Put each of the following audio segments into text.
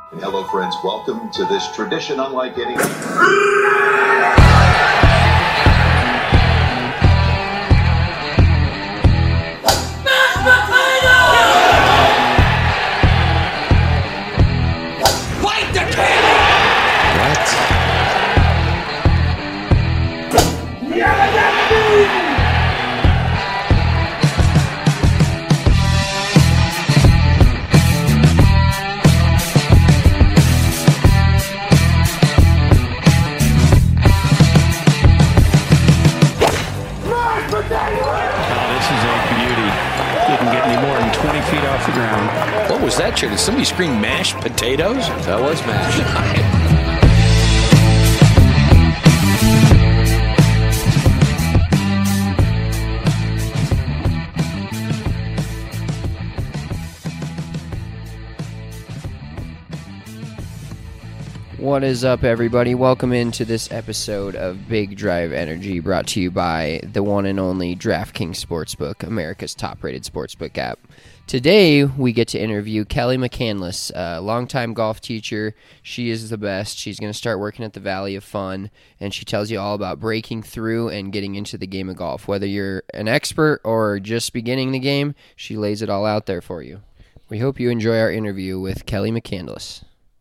Hello, friends. Welcome to this tradition unlike any. Fight the king! What? What was that, Chair? Did somebody scream mashed potatoes? That was mashed. What is up, everybody? Welcome into this episode of Big Drive Energy, brought to you by the one and only DraftKings Sportsbook, America's top-rated sportsbook app. Today, we get to interview Kelly McCandless, a longtime golf teacher. She is the best. She's going to start working at the Valley of Fun, and she tells you all about breaking through and getting into the game of golf. Whether you're an expert or just beginning the game, she lays it all out there for you. We hope you enjoy our interview with Kelly McCandless.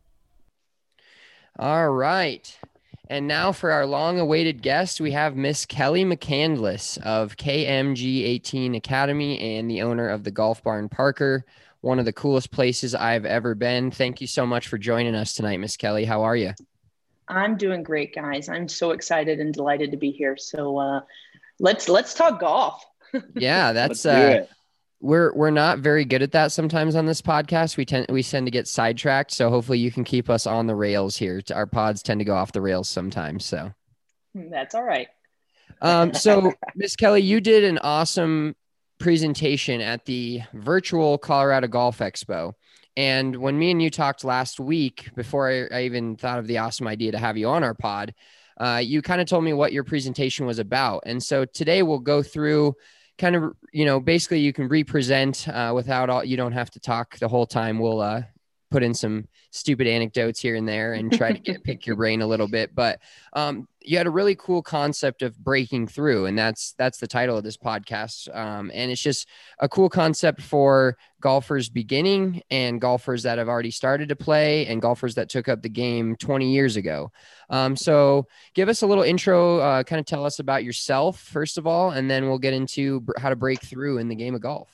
All right. And now for our long-awaited guest, we have Miss Kelly McCandless of KMG 18 Academy and the owner of the Golf Barn Parker, one of the coolest places I've ever been. Thank you so much for joining us tonight, Miss Kelly. How are you? I'm doing great, guys. I'm so excited and delighted to be here. So let's talk golf. Yeah, that's it. We're not very good at that sometimes on this podcast. We tend to get sidetracked, so hopefully you can keep us on the rails here. Our pods tend to go off the rails sometimes, so that's all right. So Miss Kelly, you did an awesome presentation at the virtual Colorado Golf Expo. And when me and you talked last week, before I even thought of the awesome idea to have you on our pod, you kind of told me what your presentation was about. And so today we'll go through kind of, basically you can represent you don't have to talk the whole time. We'll put in some stupid anecdotes here and there and try to pick your brain a little bit. But you had a really cool concept of breaking through, and that's the title of this podcast. And it's just a cool concept for golfers beginning and golfers that have already started to play and golfers that took up the game 20 years ago. So give us a little intro, kind of tell us about yourself, first of all, and then we'll get into how to break through in the game of golf.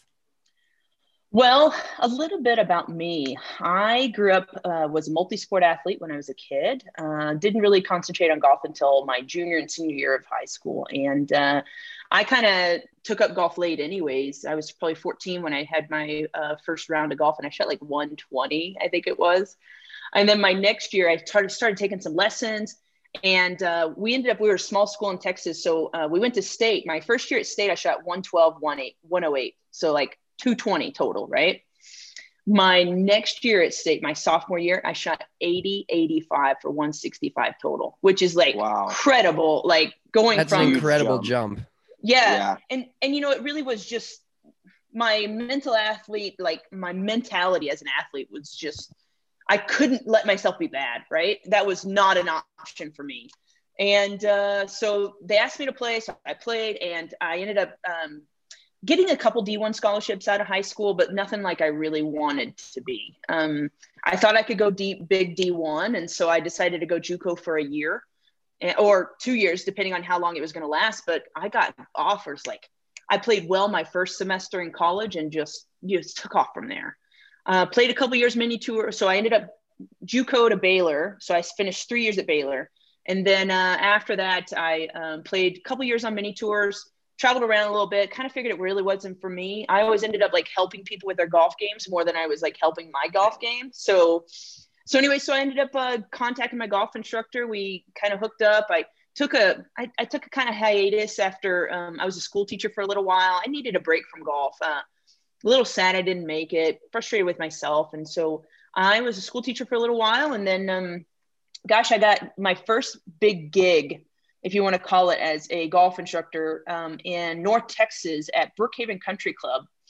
Well, a little bit about me. I grew up, was a multi-sport athlete when I was a kid. Didn't really concentrate on golf until my junior and senior year of high school. And I kind of took up golf late anyways. I was probably 14 when I had my first round of golf, and I shot like 120, I think it was. And then my next year, I started taking some lessons. And we were a small school in Texas. So we went to state. My first year at state, I shot 112, 108. So like 220 total, right? My next year at state, my sophomore year, I shot 80, 85 for 165 total, which is like incredible. Like That's an incredible jump. Yeah. And it really was just my mental athlete, like my mentality as an athlete was just, I couldn't let myself be bad, right? That was not an option for me. And so they asked me to play. So I played, and I ended up getting a couple D1 scholarships out of high school, but nothing like I really wanted to be. I thought I could go big D1. And so I decided to go JUCO for a year or 2 years, depending on how long it was going to last. But I got offers. Like I played well my first semester in college and just took off from there. Played a couple years mini tour. So I ended up JUCO to Baylor. So I finished 3 years at Baylor. And then after that, I played a couple years on mini tours, traveled around a little bit, kind of figured it really wasn't for me. I always ended up like helping people with their golf games more than I was like helping my golf game. So anyway, I ended up contacting my golf instructor. We kind of hooked up. I took a kind of hiatus after I was a school teacher for a little while. I needed a break from golf. A little sad I didn't make it, frustrated with myself. And so I was a school teacher for a little while. And then, I got my first big gig, if you want to call it, as a golf instructor in North Texas at Brookhaven Country Club.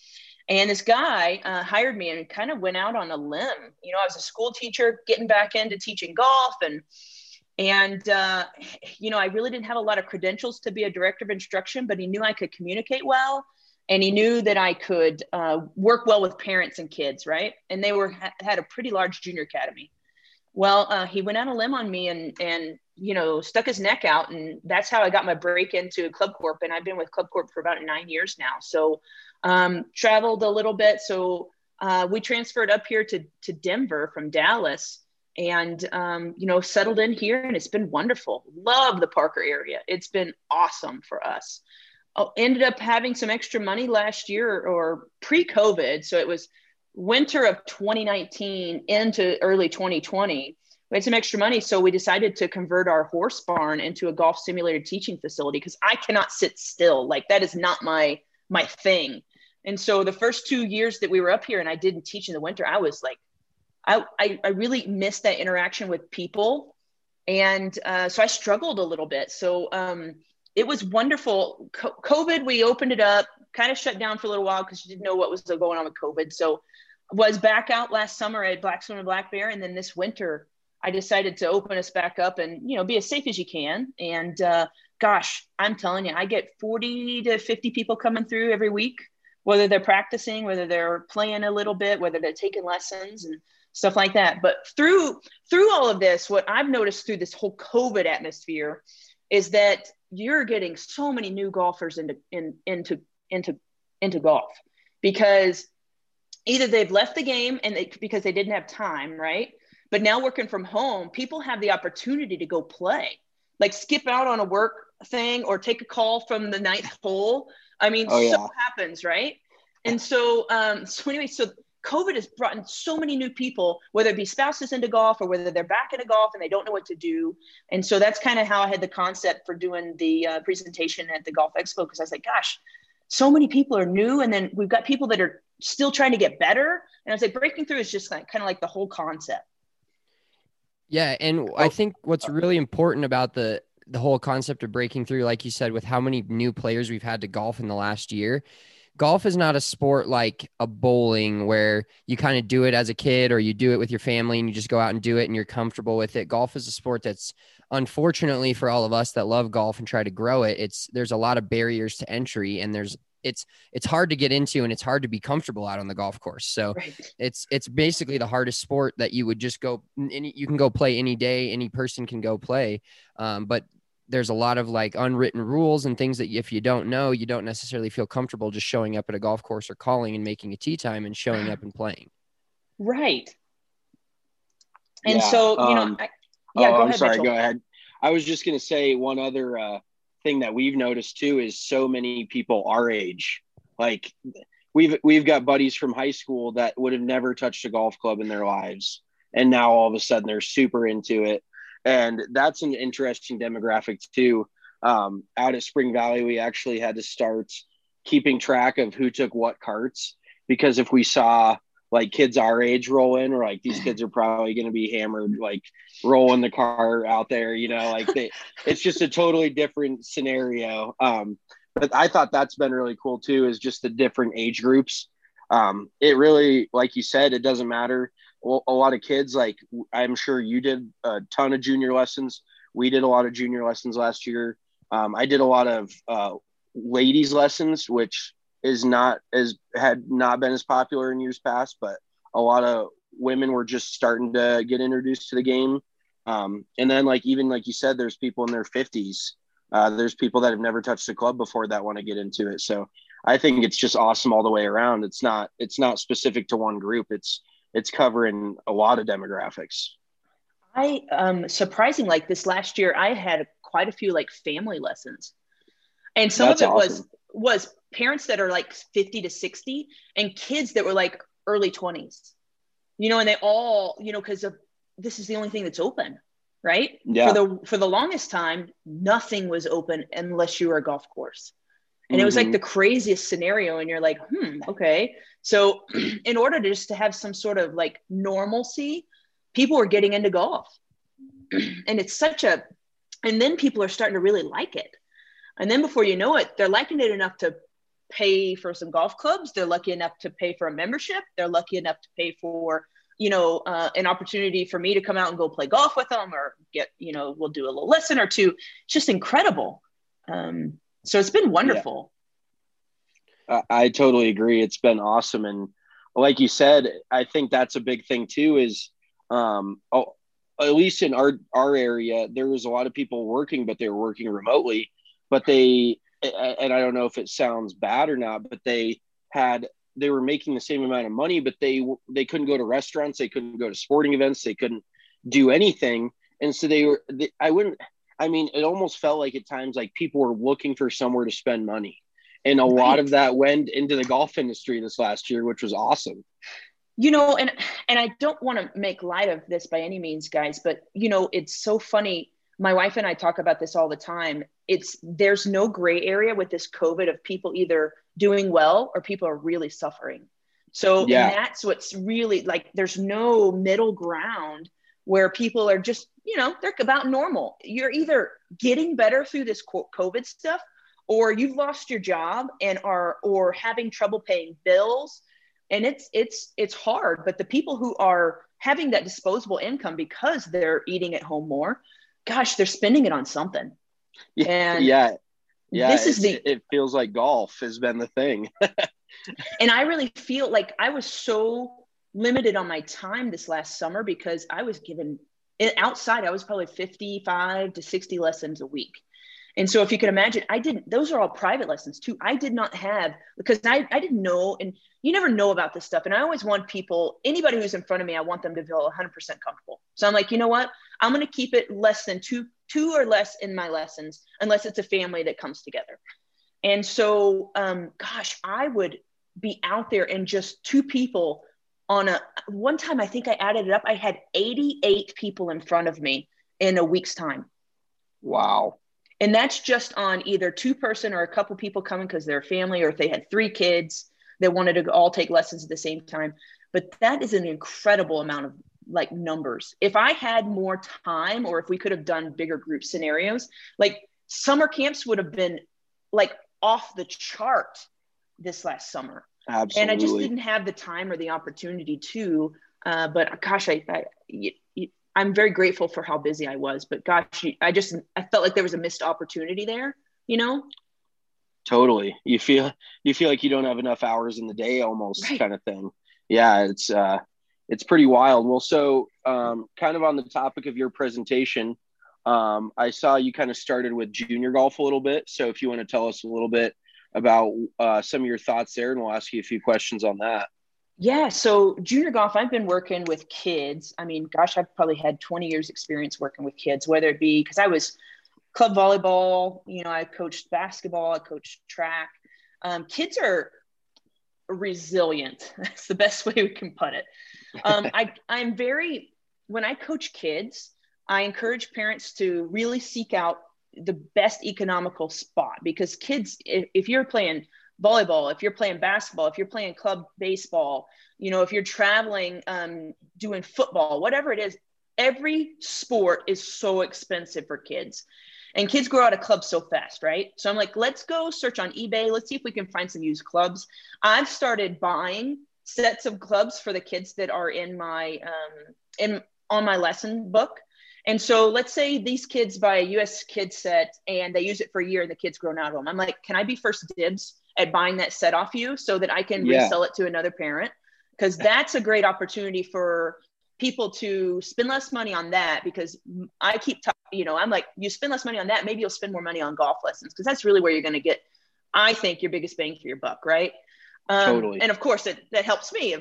And this guy hired me and kind of went out on a limb. I was a school teacher getting back into teaching golf, and I really didn't have a lot of credentials to be a director of instruction, but he knew I could communicate well, and he knew that I could work well with parents and kids, right? And they had a pretty large junior academy. Well, he went on a limb on me and stuck his neck out, and that's how I got my break into Club Corp. And I've been with Club Corp for about 9 years now. So traveled a little bit. So we transferred up here to Denver from Dallas, and settled in here, and it's been wonderful. Love the Parker area. It's been awesome for us. Ended up having some extra money last year or pre-COVID. So it was winter of 2019 into early 2020. We had some extra money. So we decided to convert our horse barn into a golf simulator teaching facility, because I cannot sit still. Like, that is not my thing. And so the first 2 years that we were up here and I didn't teach in the winter, I was like, I really missed that interaction with people. And so I struggled a little bit. So it was wonderful. COVID, we opened it up, kind of shut down for a little while because you didn't know what was going on with COVID. So was back out last summer at Black Swim and Black Bear. And then this winter, I decided to open us back up and, be as safe as you can. And gosh, I'm telling you, I get 40 to 50 people coming through every week, whether they're practicing, whether they're playing a little bit, whether they're taking lessons and stuff like that. But through all of this, what I've noticed through this whole COVID atmosphere is that you're getting so many new golfers into golf, because either they've left the game because they didn't have time, right? But now working from home, people have the opportunity to go play, like skip out on a work thing or take a call from the ninth hole. I mean, so happens, right? And so, so COVID has brought in so many new people, whether it be spouses into golf or whether they're back into golf and they don't know what to do. And so that's kind of how I had the concept for doing the presentation at the Golf Expo, because I was like, gosh, so many people are new. And then we've got people that are still trying to get better. And I was like, breaking through is just kind of like the whole concept. Yeah. And I think what's really important about the whole concept of breaking through, like you said, with how many new players we've had to golf in the last year, golf is not a sport like a bowling where you kind of do it as a kid or you do it with your family and you just go out and do it and you're comfortable with it. Golf is a sport that's, unfortunately for all of us that love golf and try to grow it, there's a lot of barriers to entry, and it's hard to get into and it's hard to be comfortable out on the golf course. So right. It's basically the hardest sport that you would just go, you can go play any day, any person can go play. But there's a lot of like unwritten rules and things that if you don't know, you don't necessarily feel comfortable just showing up at a golf course or calling and making a tee time and showing up and playing. Right. And so, go ahead. Sorry, Mitchell. go ahead. I was just going to say one other thing that we've noticed too is so many people our age, like we've got buddies from high school that would have never touched a golf club in their lives. And now all of a sudden they're super into it. And that's an interesting demographic too. Out at Spring Valley, we actually had to start keeping track of who took what carts, because if we saw like kids our age roll in, we're like, these kids are probably going to be hammered, like rolling the car out there, it's just a totally different scenario. But I thought that's been really cool too, is just the different age groups. It really, like you said, it doesn't matter. Well, a lot of kids, like I'm sure you did a ton of junior lessons. We did a lot of junior lessons last year. I did a lot of ladies lessons, which had not been as popular in years past, but a lot of women were just starting to get introduced to the game. And then even like you said, there's people in their 50s. There's people that have never touched a club before that want to get into it. So I think it's just awesome all the way around. It's not specific to one group. It's covering a lot of demographics. Surprising, like this last year, I had quite a few like family lessons, and some That's of it awesome. was parents that are like 50 to 60 and kids that were like early 20s, and they all, because of this is the only thing that's open, right? Yeah. For the longest time, nothing was open unless you were a golf course. And it was like the craziest scenario. And you're like, okay. So in order to have some sort of like normalcy, people were getting into golf. And it's and then people are starting to really like it. And then before you know it, they're liking it enough to pay for some golf clubs. They're lucky enough to pay for a membership. They're lucky enough to pay for, an opportunity for me to come out and go play golf with them, or get, we'll do a little lesson or two. It's just incredible. So it's been wonderful. Yeah. I totally agree. It's been awesome. And like you said, I think that's a big thing too, is at least in our area, there was a lot of people working, but they were working remotely. But and I don't know if it sounds bad or not, but they were making the same amount of money, but they couldn't go to restaurants, they couldn't go to sporting events, they couldn't do anything. And so it almost felt like at times like people were looking for somewhere to spend money. And a lot of that went into the golf industry this last year, which was awesome. And I don't want to make light of this by any means, guys, but it's so funny. My wife and I talk about this all the time. There's no gray area with this COVID of people either doing well or people are really suffering. So and that's what's really like, there's no middle ground where people are just, they're about normal. You're either getting better through this COVID stuff, or you've lost your job and or having trouble paying bills. And it's hard, but the people who are having that disposable income because they're eating at home more, gosh, they're spending it on something. And it feels like golf has been the thing. And I really feel like I was so limited on my time this last summer because I was given outside, I was probably 55 to 60 lessons a week. And so if you can imagine, those are all private lessons too. I did not have, because I didn't know, and you never know about this stuff. And I always want anybody who's in front of me, I want them to feel 100% comfortable. So I'm like, you know what? I'm going to keep it less than two or less in my lessons, unless it's a family that comes together. And so, I would be out there and just two people one time, I think I added it up. I had 88 people in front of me in a week's time. Wow. And that's just on either two-person or a couple people coming because they're a family, or if they had 3 kids that wanted to all take lessons at the same time. But that is an incredible amount of like numbers. If I had more time, or if we could have done bigger group scenarios, like summer camps would have been like off the chart this last summer. Absolutely. And I just didn't have the time or the opportunity to, but gosh, I'm very grateful for how busy I was, but gosh, I felt like there was a missed opportunity there, Totally. You feel like you don't have enough hours in the day almost, right, kind of thing. Yeah. It's pretty wild. Well, so kind of on the topic of your presentation, I saw you kind of started with junior golf a little bit. So if you want to tell us a little bit about some of your thoughts there, and we'll ask you a few questions on that. Yeah. So junior golf, I've been working with kids. I mean, gosh, I've probably had 20 years experience working with kids, whether it be because I was club volleyball, I coached basketball, I coached track. Kids are resilient. That's the best way we can put it. When I coach kids, I encourage parents to really seek out the best economical spot, because kids, if you're playing volleyball, if you're playing basketball, if you're playing club baseball, if you're traveling, doing football, whatever it is, every sport is so expensive for kids, and kids grow out of clubs so fast, right? So I'm like, let's go search on eBay. Let's see if we can find some used clubs. I've started buying sets of clubs for the kids that are in my, on my lesson book. And so let's say these kids buy a US Kids set and they use it for a year and the kid's grown out of them. I'm like, can I be first dibs at buying that set off you so that I can resell it to another parent? Because that's a great opportunity for people to spend less money on that, because I keep I'm like, you spend less money on that, maybe you'll spend more money on golf lessons, because that's really where you're going to get, I think, your biggest bang for your buck, right? Totally. And of course that helps me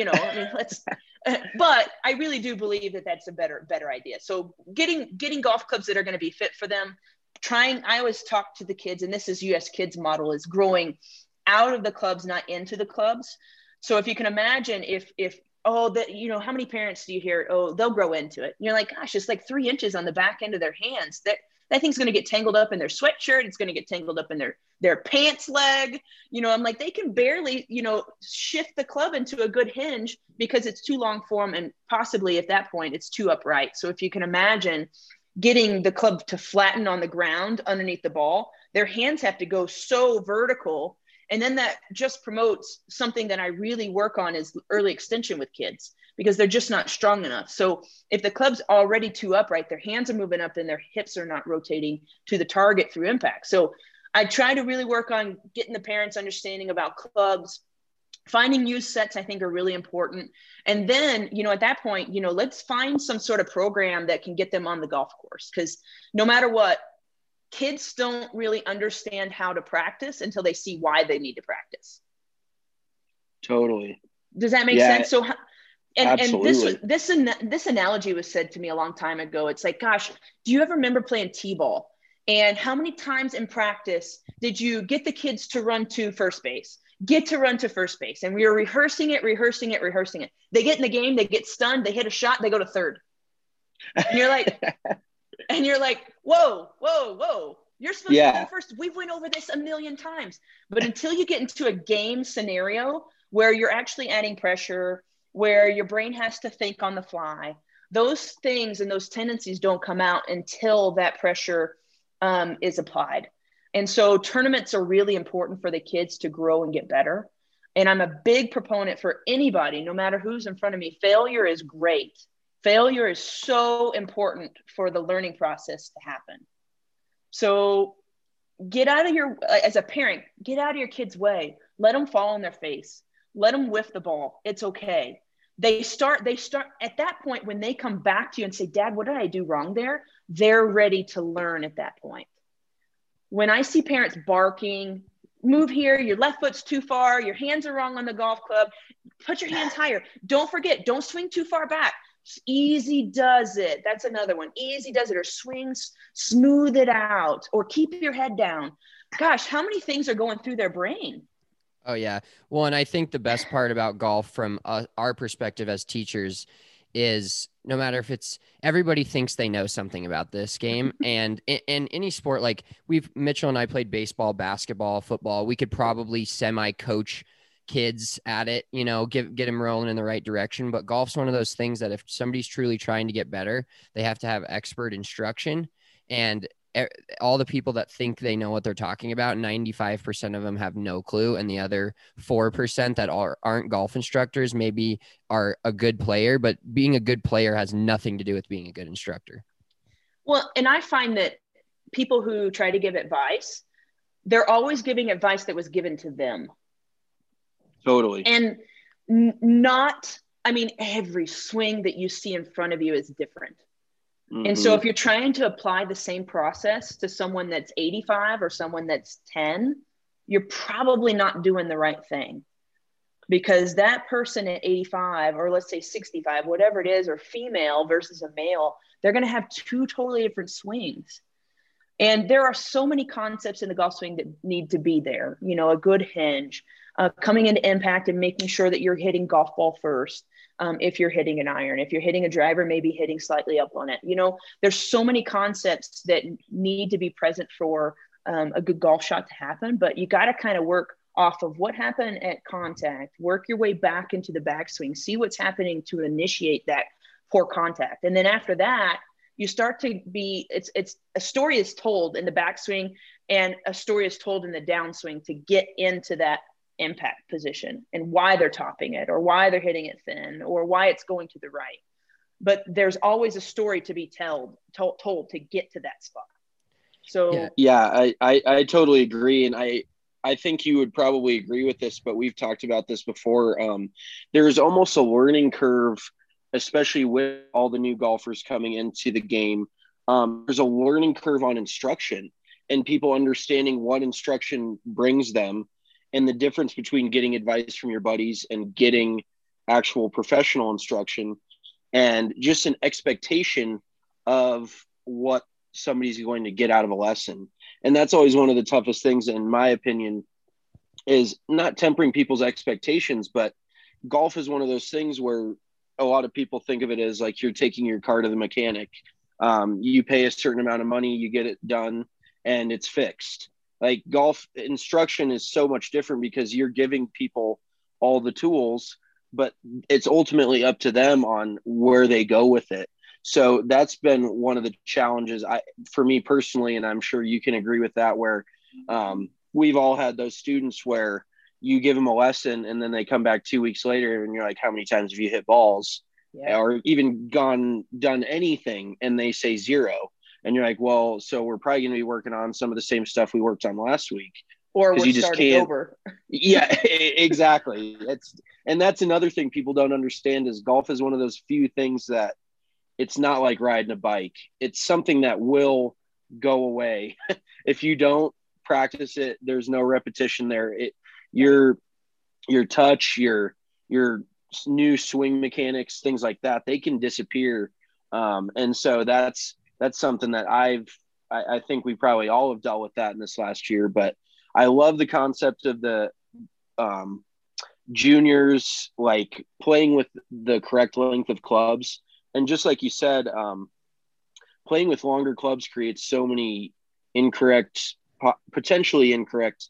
but I really do believe that that's a better idea. So getting golf clubs that are going to be fit for them, I always talk to the kids, and this is US Kids model, is growing out of the clubs, not into the clubs. So if you can imagine how many parents do you hear, they'll grow into it. And you're like, gosh, it's like 3 inches on the back end of their hands. That thing's going to get tangled up in their sweatshirt. It's going to get tangled up in their pants leg. I'm like, they can barely, shift the club into a good hinge because it's too long for them. And possibly at that point, it's too upright. So if you can imagine getting the club to flatten on the ground underneath the ball, their hands have to go so vertical. And then that just promotes something that I really work on is early extension with kids, because they're just not strong enough. So if the club's already too upright, their hands are moving up and their hips are not rotating to the target through impact. So I try to really work on getting the parents understanding about clubs. Finding use sets, I think, are really important. And then, at that point, let's find some sort of program that can get them on the golf course. Because no matter what, kids don't really understand how to practice until they see why they need to practice. Totally. Does that make sense? So, absolutely. and this analogy was said to me a long time ago. It's like, gosh, do you ever remember playing t-ball? And how many times in practice did you get the kids to run to first base? Get to run to first base. And we were rehearsing it. They get in the game, they get stunned, they hit a shot, they go to third. And you're like, whoa. You're supposed to go first. We went over this a million times. But until you get into a game scenario where you're actually adding pressure, where your brain has to think on the fly, those things and those tendencies don't come out until that pressure is applied. And so tournaments are really important for the kids to grow and get better. And I'm a big proponent for anybody, no matter who's in front of me. Failure is great. Failure is so important for the learning process to happen. So as a parent, get out of your kid's way. Let them fall on their face. Let them whiff the ball. It's okay. They start at that point, when they come back to you and say, Dad, what did I do wrong there? They're ready to learn at that point. When I see parents barking, move here, your left foot's too far, your hands are wrong on the golf club, put your hands higher. Don't forget, don't swing too far back. Easy does it. That's another one. Easy does it, or swings, smooth it out, or keep your head down. Gosh, how many things are going through their brain? Oh, yeah. Well, and I think the best part about golf from our perspective as teachers is no matter if it's everybody thinks they know something about this game, and in any sport, like Mitchell and I played baseball, basketball, football, we could probably semi-coach kids at it, get them rolling in the right direction. But golf's one of those things that if somebody's truly trying to get better, they have to have expert instruction. And all the people that think they know what they're talking about, 95% of them have no clue. And the other 4% that aren't golf instructors maybe are a good player, but being a good player has nothing to do with being a good instructor. Well, and I find that people who try to give advice, they're always giving advice that was given to them. Totally. And every swing that you see in front of you is different. Mm-hmm. And so if you're trying to apply the same process to someone that's 85 or someone that's 10, you're probably not doing the right thing, because that person at 85, or let's say 65, whatever it is, or female versus a male, they're going to have two totally different swings. And there are so many concepts in the golf swing that need to be there. A good hinge, coming into impact and making sure that you're hitting golf ball first. If you're hitting an iron, if you're hitting a driver, maybe hitting slightly up on it. There's so many concepts that need to be present for a good golf shot to happen, but you got to kind of work off of what happened at contact, work your way back into the backswing, see what's happening to initiate that poor contact. And then after that, you start to it's a story is told in the backswing and a story is told in the downswing to get into that impact position and why they're topping it, or why they're hitting it thin, or why it's going to the right. But there's always a story to be told to get to that spot. So I totally agree. And I think you would probably agree with this, but we've talked about this before. There's almost a learning curve, especially with all the new golfers coming into the game. There's a learning curve on instruction and people understanding what instruction brings them, and the difference between getting advice from your buddies and getting actual professional instruction, and just an expectation of what somebody's going to get out of a lesson. And that's always one of the toughest things, in my opinion, is not tempering people's expectations. But golf is one of those things where a lot of people think of it as like you're taking your car to the mechanic. You pay a certain amount of money, you get it done, and it's fixed. Like golf instruction is so much different because you're giving people all the tools, but it's ultimately up to them on where they go with it. So that's been one of the challenges for me personally, and I'm sure you can agree with that, where we've all had those students where you give them a lesson and then they come back 2 weeks later and you're like, how many times have you hit balls? Yeah. Or even done anything, and they say 0. And you're like, well, so we're probably going to be working on some of the same stuff we worked on last week. Or we're you just starting can't, over. Yeah, exactly. That's another thing people don't understand is golf is one of those few things that it's not like riding a bike. It's something that will go away. If you don't practice it, there's no repetition there. Your touch, your new swing mechanics, things like that, they can disappear. And so that's something that I think we probably all have dealt with that in this last year. But I love the concept of the juniors, like playing with the correct length of clubs. And just like you said, playing with longer clubs creates so many potentially incorrect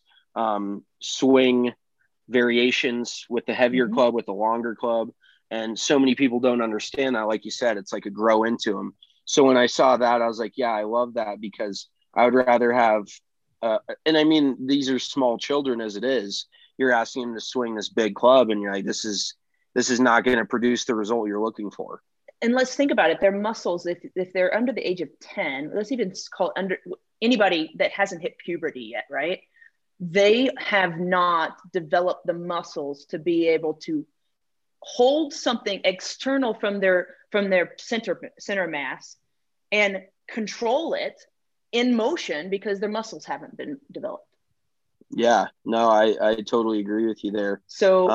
swing variations with the heavier club, with the longer club. And so many people don't understand that. Like you said, it's like a grow into them. So when I saw that, I was like, yeah, I love that, because I would rather have, and I mean, these are small children as it is. You're asking them to swing this big club and you're like, this is not going to produce the result you're looking for. And let's think about it. Their muscles, if they're under the age of 10, let's even call under anybody that hasn't hit puberty yet, right? They have not developed the muscles to be able to hold something external from their center mass and control it in motion because their muscles haven't been developed. Yeah, no, I totally agree with you there. So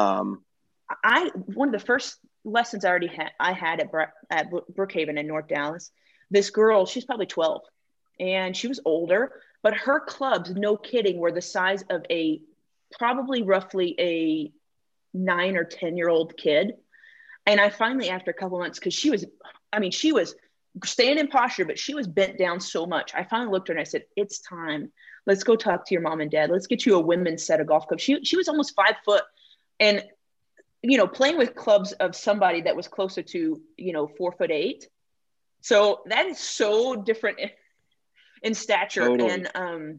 one of the first lessons I had at Brookhaven in North Dallas, this girl, she's probably 12 and she was older, but her clubs, no kidding, were the size of probably roughly a 9 or 10-year-old kid. And I finally, after a couple months, because she was staying in posture, but she was bent down so much. I finally looked at her and I said, it's time. Let's go talk to your mom and dad. Let's get you a women's set of golf clubs. She was almost 5 foot and, playing with clubs of somebody that was closer to, 4'8". So that is so different in stature. Totally. And,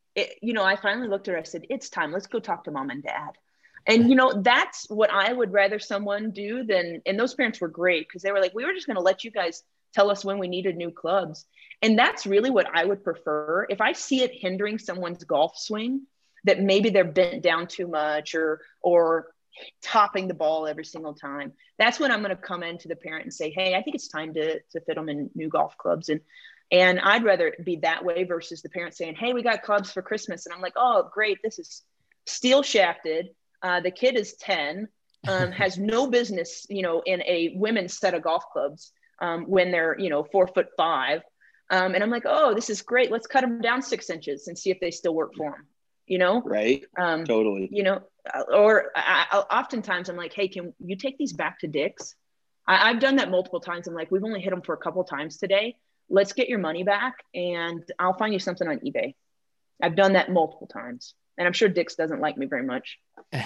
I finally looked at her. I said, it's time. Let's go talk to mom and dad. And, that's what I would rather someone do than, and those parents were great because they were like, we were just going to let you guys tell us when we needed new clubs. And that's really what I would prefer. If I see it hindering someone's golf swing, that maybe they're bent down too much or topping the ball every single time, that's when I'm going to come in to the parent and say, hey, I think it's time to fit them in new golf clubs. And I'd rather it be that way versus the parent saying, hey, we got clubs for Christmas. And I'm like, oh, great. This is steel shafted. The kid is 10, has no business, in a women's set of golf clubs when they're, 4'5". And I'm like, oh, this is great. Let's cut them down 6 inches and see if they still work for them, Right. Totally. Or oftentimes I'm like, hey, can you take these back to Dick's? I've done that multiple times. I'm like, we've only hit them for a couple of times today. Let's get your money back and I'll find you something on eBay. I've done that multiple times. And I'm sure Dick's doesn't like me very much.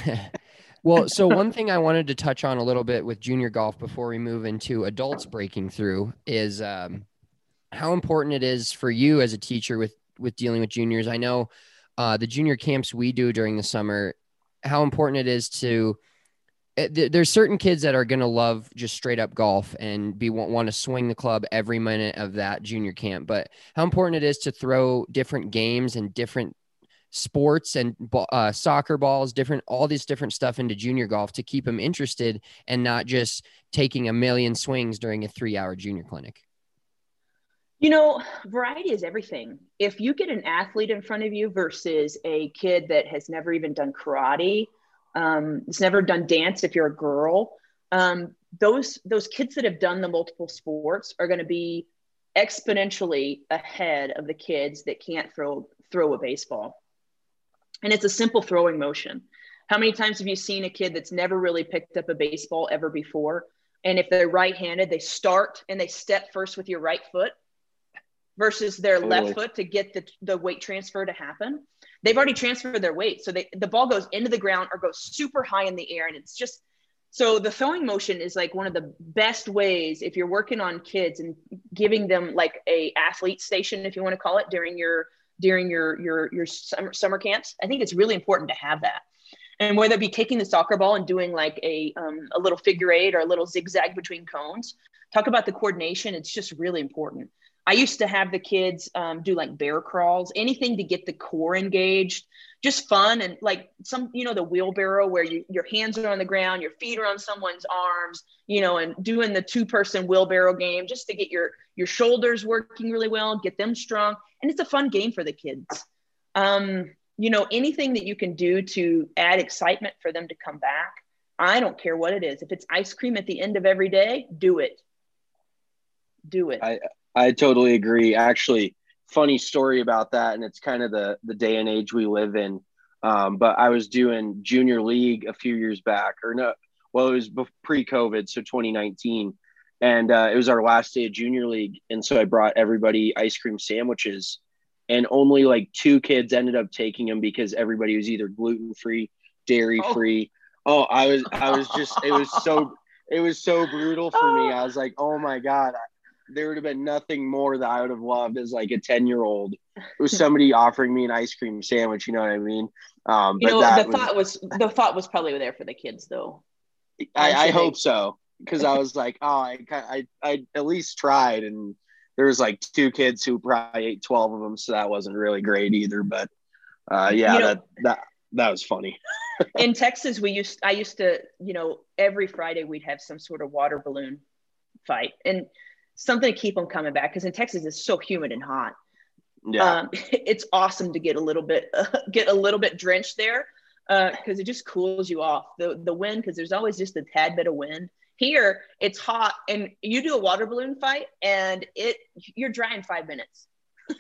Well, so one thing I wanted to touch on a little bit with junior golf before we move into adults breaking through is how important it is for you as a teacher with dealing with juniors. I know the junior camps we do during the summer, how important it is to there's certain kids that are going to love just straight up golf and want to swing the club every minute of that junior camp. But how important it is to throw different games and different sports and soccer balls, all this different stuff into junior golf to keep them interested and not just taking a million swings during a 3-hour junior clinic. Variety is everything. If you get an athlete in front of you versus a kid that has never even done karate, has never done dance, if you're a girl, those kids that have done the multiple sports are going to be exponentially ahead of the kids that can't throw a baseball. And it's a simple throwing motion. How many times have you seen a kid that's never really picked up a baseball ever before? And if they're right-handed, they start and they step first with your right foot versus their left foot to get the weight transfer to happen. They've already transferred their weight. So the ball goes into the ground or goes super high in the air. And it's just, so the throwing motion is like one of the best ways if you're working on kids and giving them like a athlete station, if you want to call it, during your during your summer camps. I think it's really important to have that. And whether it be taking the soccer ball and doing like a little figure eight or a little zigzag between cones, talk about the coordination. It's just really important. I used to have the kids do like bear crawls, anything to get the core engaged, just fun. And like the wheelbarrow where your hands are on the ground, your feet are on someone's arms, and doing the 2-person wheelbarrow game just to get your shoulders working really well, get them strong. And it's a fun game for the kids. Anything that you can do to add excitement for them to come back. I don't care what it is. If it's ice cream at the end of every day, do it. Do it. I totally agree. Actually, funny story about that, and it's kind of the day and age we live in. But I was doing junior league a few years back, it was pre-COVID, so 2019, and it was our last day of junior league, and so I brought everybody ice cream sandwiches, and only like 2 kids ended up taking them because everybody was either gluten-free, dairy-free. I was just it was so brutal for me. I was like, oh my God. There would have been nothing more that I would have loved as like a 10-year-old. It was somebody offering me an ice cream sandwich. You know what I mean? The thought was probably there for the kids though. I hope so. Cause I was like, I at least tried. And there was like 2 kids who probably ate 12 of them. So that wasn't really great either, but that was funny. In Texas, I used to, every Friday we'd have some sort of water balloon fight and something to keep them coming back. Cause in Texas it's so humid and hot. Yeah. It's awesome to get a little bit drenched there. Cause it just cools you off the wind. Cause there's always just a tad bit of wind here. It's hot and you do a water balloon fight and you're dry in 5 minutes.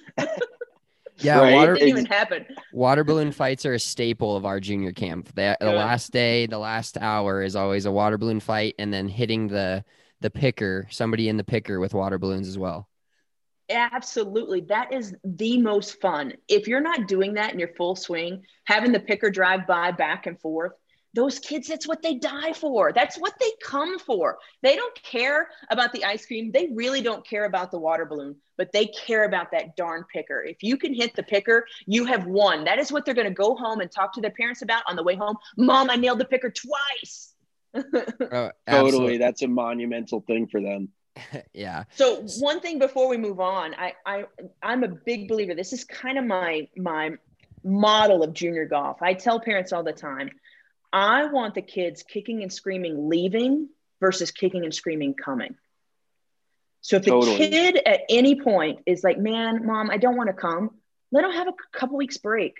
Yeah, right? It didn't even happen. Water balloon fights are a staple of our junior camp. The last day, the last hour is always a water balloon fight, and then hitting the picker, somebody in the picker with water balloons as well. Absolutely. That is the most fun. If you're not doing that in your full swing, having the picker drive by back and forth, those kids, that's what they die for. That's what they come for. They don't care about the ice cream. They really don't care about the water balloon, but they care about that darn picker. If you can hit the picker, you have won. That is what they're going to go home and talk to their parents about on the way home. Mom, I nailed the picker twice. Totally. That's a monumental thing for them. Yeah. So one thing before we move on, I'm a big believer. This is kind of my model of junior golf. I tell parents all the time, I want the kids kicking and screaming leaving versus kicking and screaming coming. So if the kid at any point is like, man, Mom, I don't want to come, let them have a couple weeks break.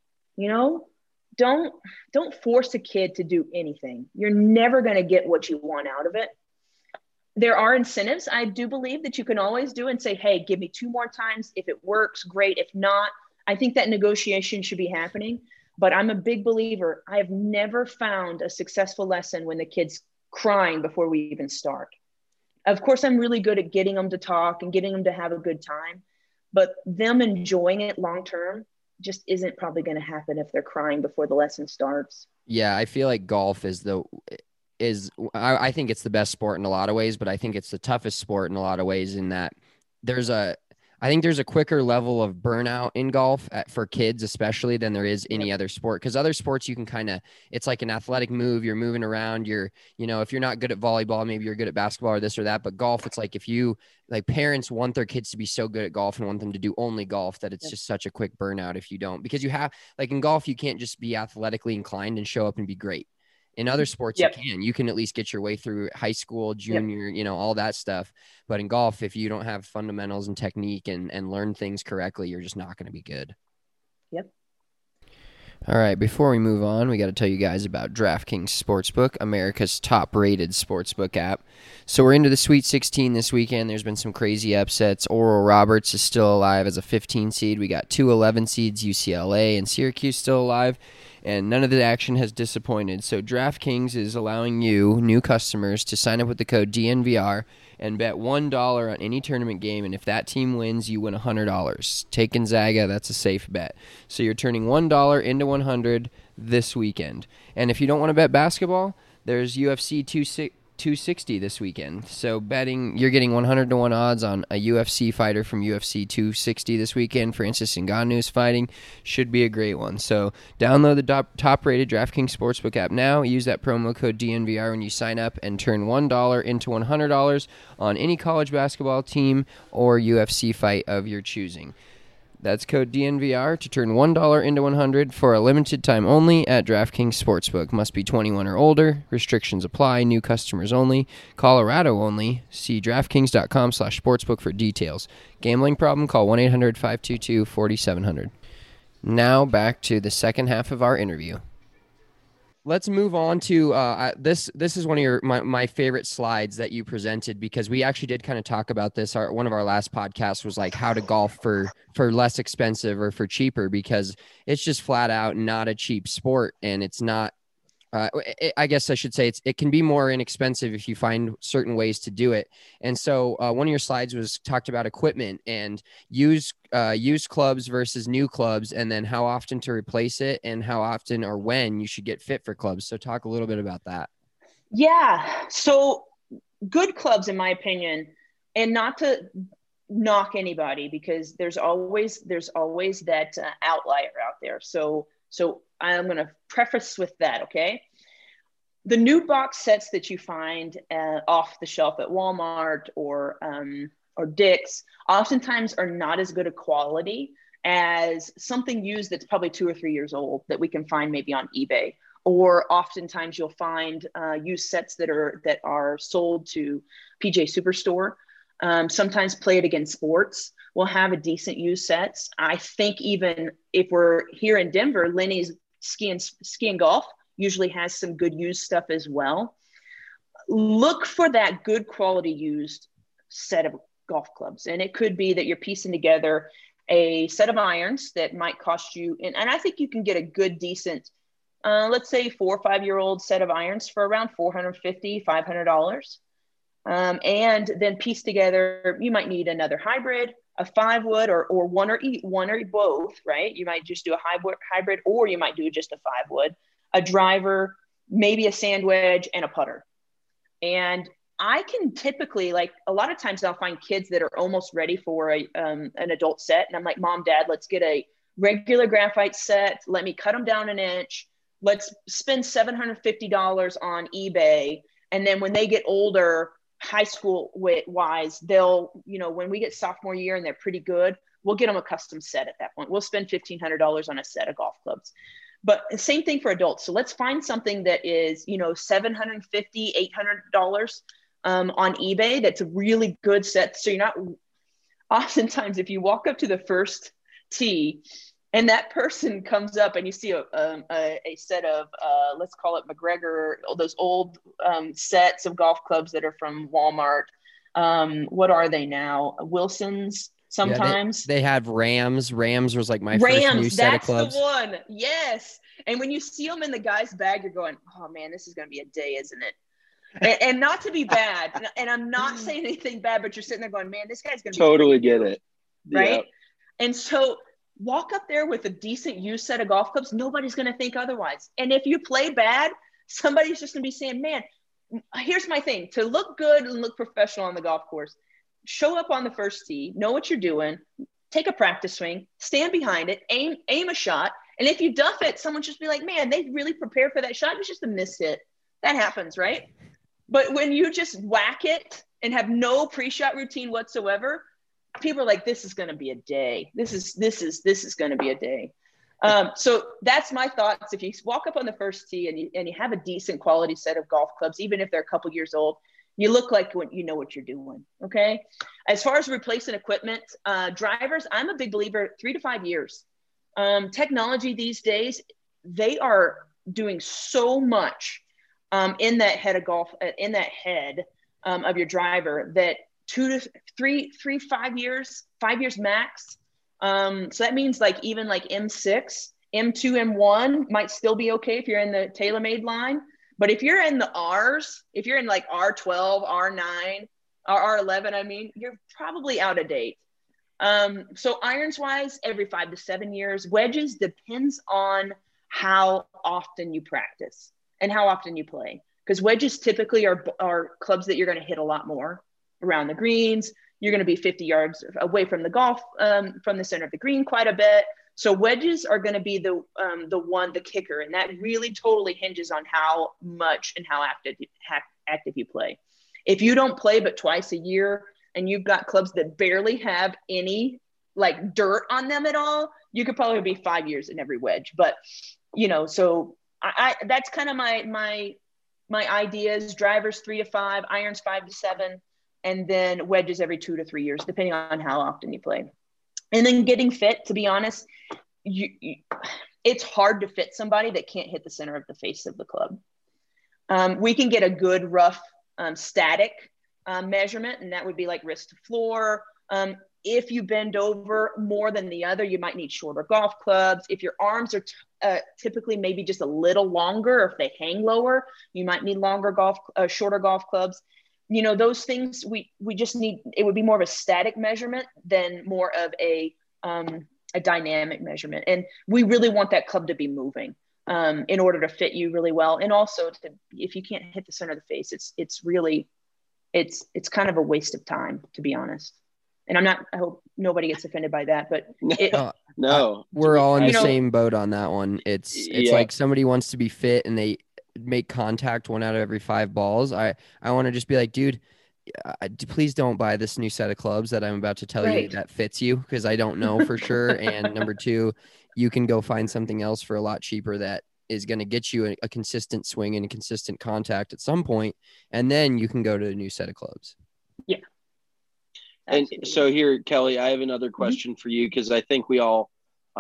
Don't force a kid to do anything. You're never going to get what you want out of it. There are incentives. I do believe that you can always do and say, hey, give me 2 more times. If it works, great. If not, I think that negotiation should be happening. But I'm a big believer. I have never found a successful lesson when the kid's crying before we even start. Of course, I'm really good at getting them to talk and getting them to have a good time, but them enjoying it long-term just isn't probably going to happen if they're crying before the lesson starts. Yeah. I feel like golf I think it's the best sport in a lot of ways, but I think it's the toughest sport in a lot of ways in that I think there's a quicker level of burnout in golf for kids, especially than there is any other sport. Because other sports, you can it's like an athletic move. You're moving around. If you're not good at volleyball, maybe you're good at basketball or this or that. But golf, it's like parents want their kids to be so good at golf and want them to do only golf that it's just such a quick burnout if you don't. Because you have, like in golf, you can't just be athletically inclined and show up and be great. In other sports, you can at least get your way through high school, junior, all that stuff. But in golf, if you don't have fundamentals and technique and learn things correctly, you're just not going to be good. Yep. All right. Before we move on, we got to tell you guys about DraftKings Sportsbook, America's top-rated sportsbook app. So we're into the Sweet 16 this weekend. There's been some crazy upsets. Oral Roberts is still alive as a 15 seed. We got 2 11 seeds, UCLA and Syracuse still alive. And none of the action has disappointed. So DraftKings is allowing you, new customers, to sign up with the code DNVR and bet $1 on any tournament game. And if that team wins, you win $100. Take Gonzaga, that's a safe bet. So you're turning $1 into $100 this weekend. And if you don't want to bet basketball, there's UFC 260 this weekend. So betting, you're getting 100 to 1 odds on a UFC fighter from UFC 260 this weekend. Francis Ngannou's fighting. Should be a great one. So download the top-rated DraftKings Sportsbook app now. Use that promo code DNVR when you sign up and turn $1 into $100 on any college basketball team or UFC fight of your choosing. That's code DNVR to turn $1 into $100 for a limited time only at DraftKings Sportsbook. Must be 21 or older. Restrictions apply. New customers only. Colorado only. See DraftKings.com/sportsbook for details. Gambling problem? Call 1-800-522-4700. Now back to the second half of our interview. Let's move on to this. This is one of my favorite slides that you presented, because we actually did kind of talk about this. One of our last podcasts was like how to golf for less expensive or for cheaper, because it's just flat out not a cheap sport, and it's not. I guess I should say it can be more inexpensive if you find certain ways to do it. And so one of your slides was talked about equipment and used clubs versus new clubs, and then how often to replace it and how often or when you should get fit for clubs. So talk a little bit about that. Yeah. So good clubs, in my opinion, and not to knock anybody, because there's always that outlier out there. So I'm going to preface with that, okay? The new box sets that you find off the shelf at Walmart or Dick's oftentimes are not as good a quality as something used that's probably 2 or 3 years old that we can find maybe on eBay. Or oftentimes you'll find used sets that are sold to PJ Superstore. Sometimes Play It Again Sports will have a decent used sets. I think even if we're here in Denver, Lenny's Ski and Golf usually has some good used stuff as well. Look for that good quality used set of golf clubs. And it could be that you're piecing together a set of irons that might cost you, and I think you can get a good, decent, let's say 4 or 5 year old set of irons for around $450, $500. And then piece together, you might need another hybrid, a 5-wood, or one or both, right? You might just do a hybrid, or you might do just a 5-wood, a driver, maybe a sand wedge, and a putter. And I can typically, like, a lot of times I'll find kids that are almost ready for an adult set. And I'm like, Mom, Dad, let's get a regular graphite set. Let me cut them down an inch. Let's spend $750 on eBay. And then when they get older, high school wise, they'll, when we get sophomore year and they're pretty good, we'll get them a custom set at that point. We'll spend $1,500 on a set of golf clubs. But the same thing for adults. So let's find something that is, $750, $800 on eBay. That's a really good set. So you're not, oftentimes if you walk up to the first tee and that person comes up and you see a set of, let's call it McGregor, those old sets of golf clubs that are from Walmart. What are they now? Wilson's sometimes. Yeah, they have Rams. Rams was like my first new set of clubs. That's the one. Yes. And when you see them in the guy's bag, you're going, oh man, this is going to be a day, isn't it? and not to be bad. And I'm not saying anything bad, but you're sitting there going, man, this guy's going to totally get it. Right. Yep. And so walk up there with a decent used set of golf clubs. Nobody's going to think otherwise. And if you play bad, somebody's just going to be saying, man, here's my thing. To look good and look professional on the golf course, show up on the first tee, know what you're doing, take a practice swing, stand behind it, aim a shot. And if you duff it, someone just be like, man, they really prepared for that shot. It was just a missed hit. That happens, right? But when you just whack it and have no pre-shot routine whatsoever, people are like, this is going to be a day. This is going to be a day. So that's my thoughts. If you walk up on the first tee and you have a decent quality set of golf clubs, even if they're a couple years old, you look like you know what you're doing. Okay. As far as replacing equipment, drivers, I'm a big believer, 3 to 5 years. Technology these days, they are doing so much in that head of golf, in that head of your driver, that 5 years max. So that means like even like M6, M2, M1 might still be okay if you're in the TaylorMade line. But if you're in the R's, if you're in like R12, R9, or R11, you're probably out of date. So irons wise, every 5 to 7 years. Wedges depends on how often you practice and how often you play. because wedges typically are clubs that you're going to hit a lot more around the greens. You're going to be 50 yards away from the golf, from the center of the green quite a bit. So wedges are going to be the kicker. And that really totally hinges on how much and how active you play. If you don't play but twice a year and you've got clubs that barely have any like dirt on them at all, you could probably be 5 years in every wedge. But, so I that's kind of my ideas: drivers 3 to 5, irons 5 to 7, and then wedges every 2 to 3 years, depending on how often you play. And then getting fit, to be honest, it's hard to fit somebody that can't hit the center of the face of the club. We can get a good rough static measurement, and that would be like wrist to floor. If you bend over more than the other, you might need shorter golf clubs. If your arms are typically maybe just a little longer, or if they hang lower, you might need shorter golf clubs. Those things we just need. It would be more of a static measurement than more of a dynamic measurement. And we really want that club to be moving in order to fit you really well. And also, if you can't hit the center of the face, it's really kind of a waste of time, to be honest. And I hope nobody gets offended by that, but no, we're all in the same boat on that one. It's like somebody wants to be fit and they make contact 1 out of every 5 balls. I want to just be like, dude, please don't buy this new set of clubs that I'm about to tell you that fits you, because I don't know for sure. And number 2, you can go find something else for a lot cheaper that is going to get you a consistent swing and a consistent contact at some point, and then you can go to a new set of clubs. Yeah. And so here, Kelly, I have another question for you, because I think we all,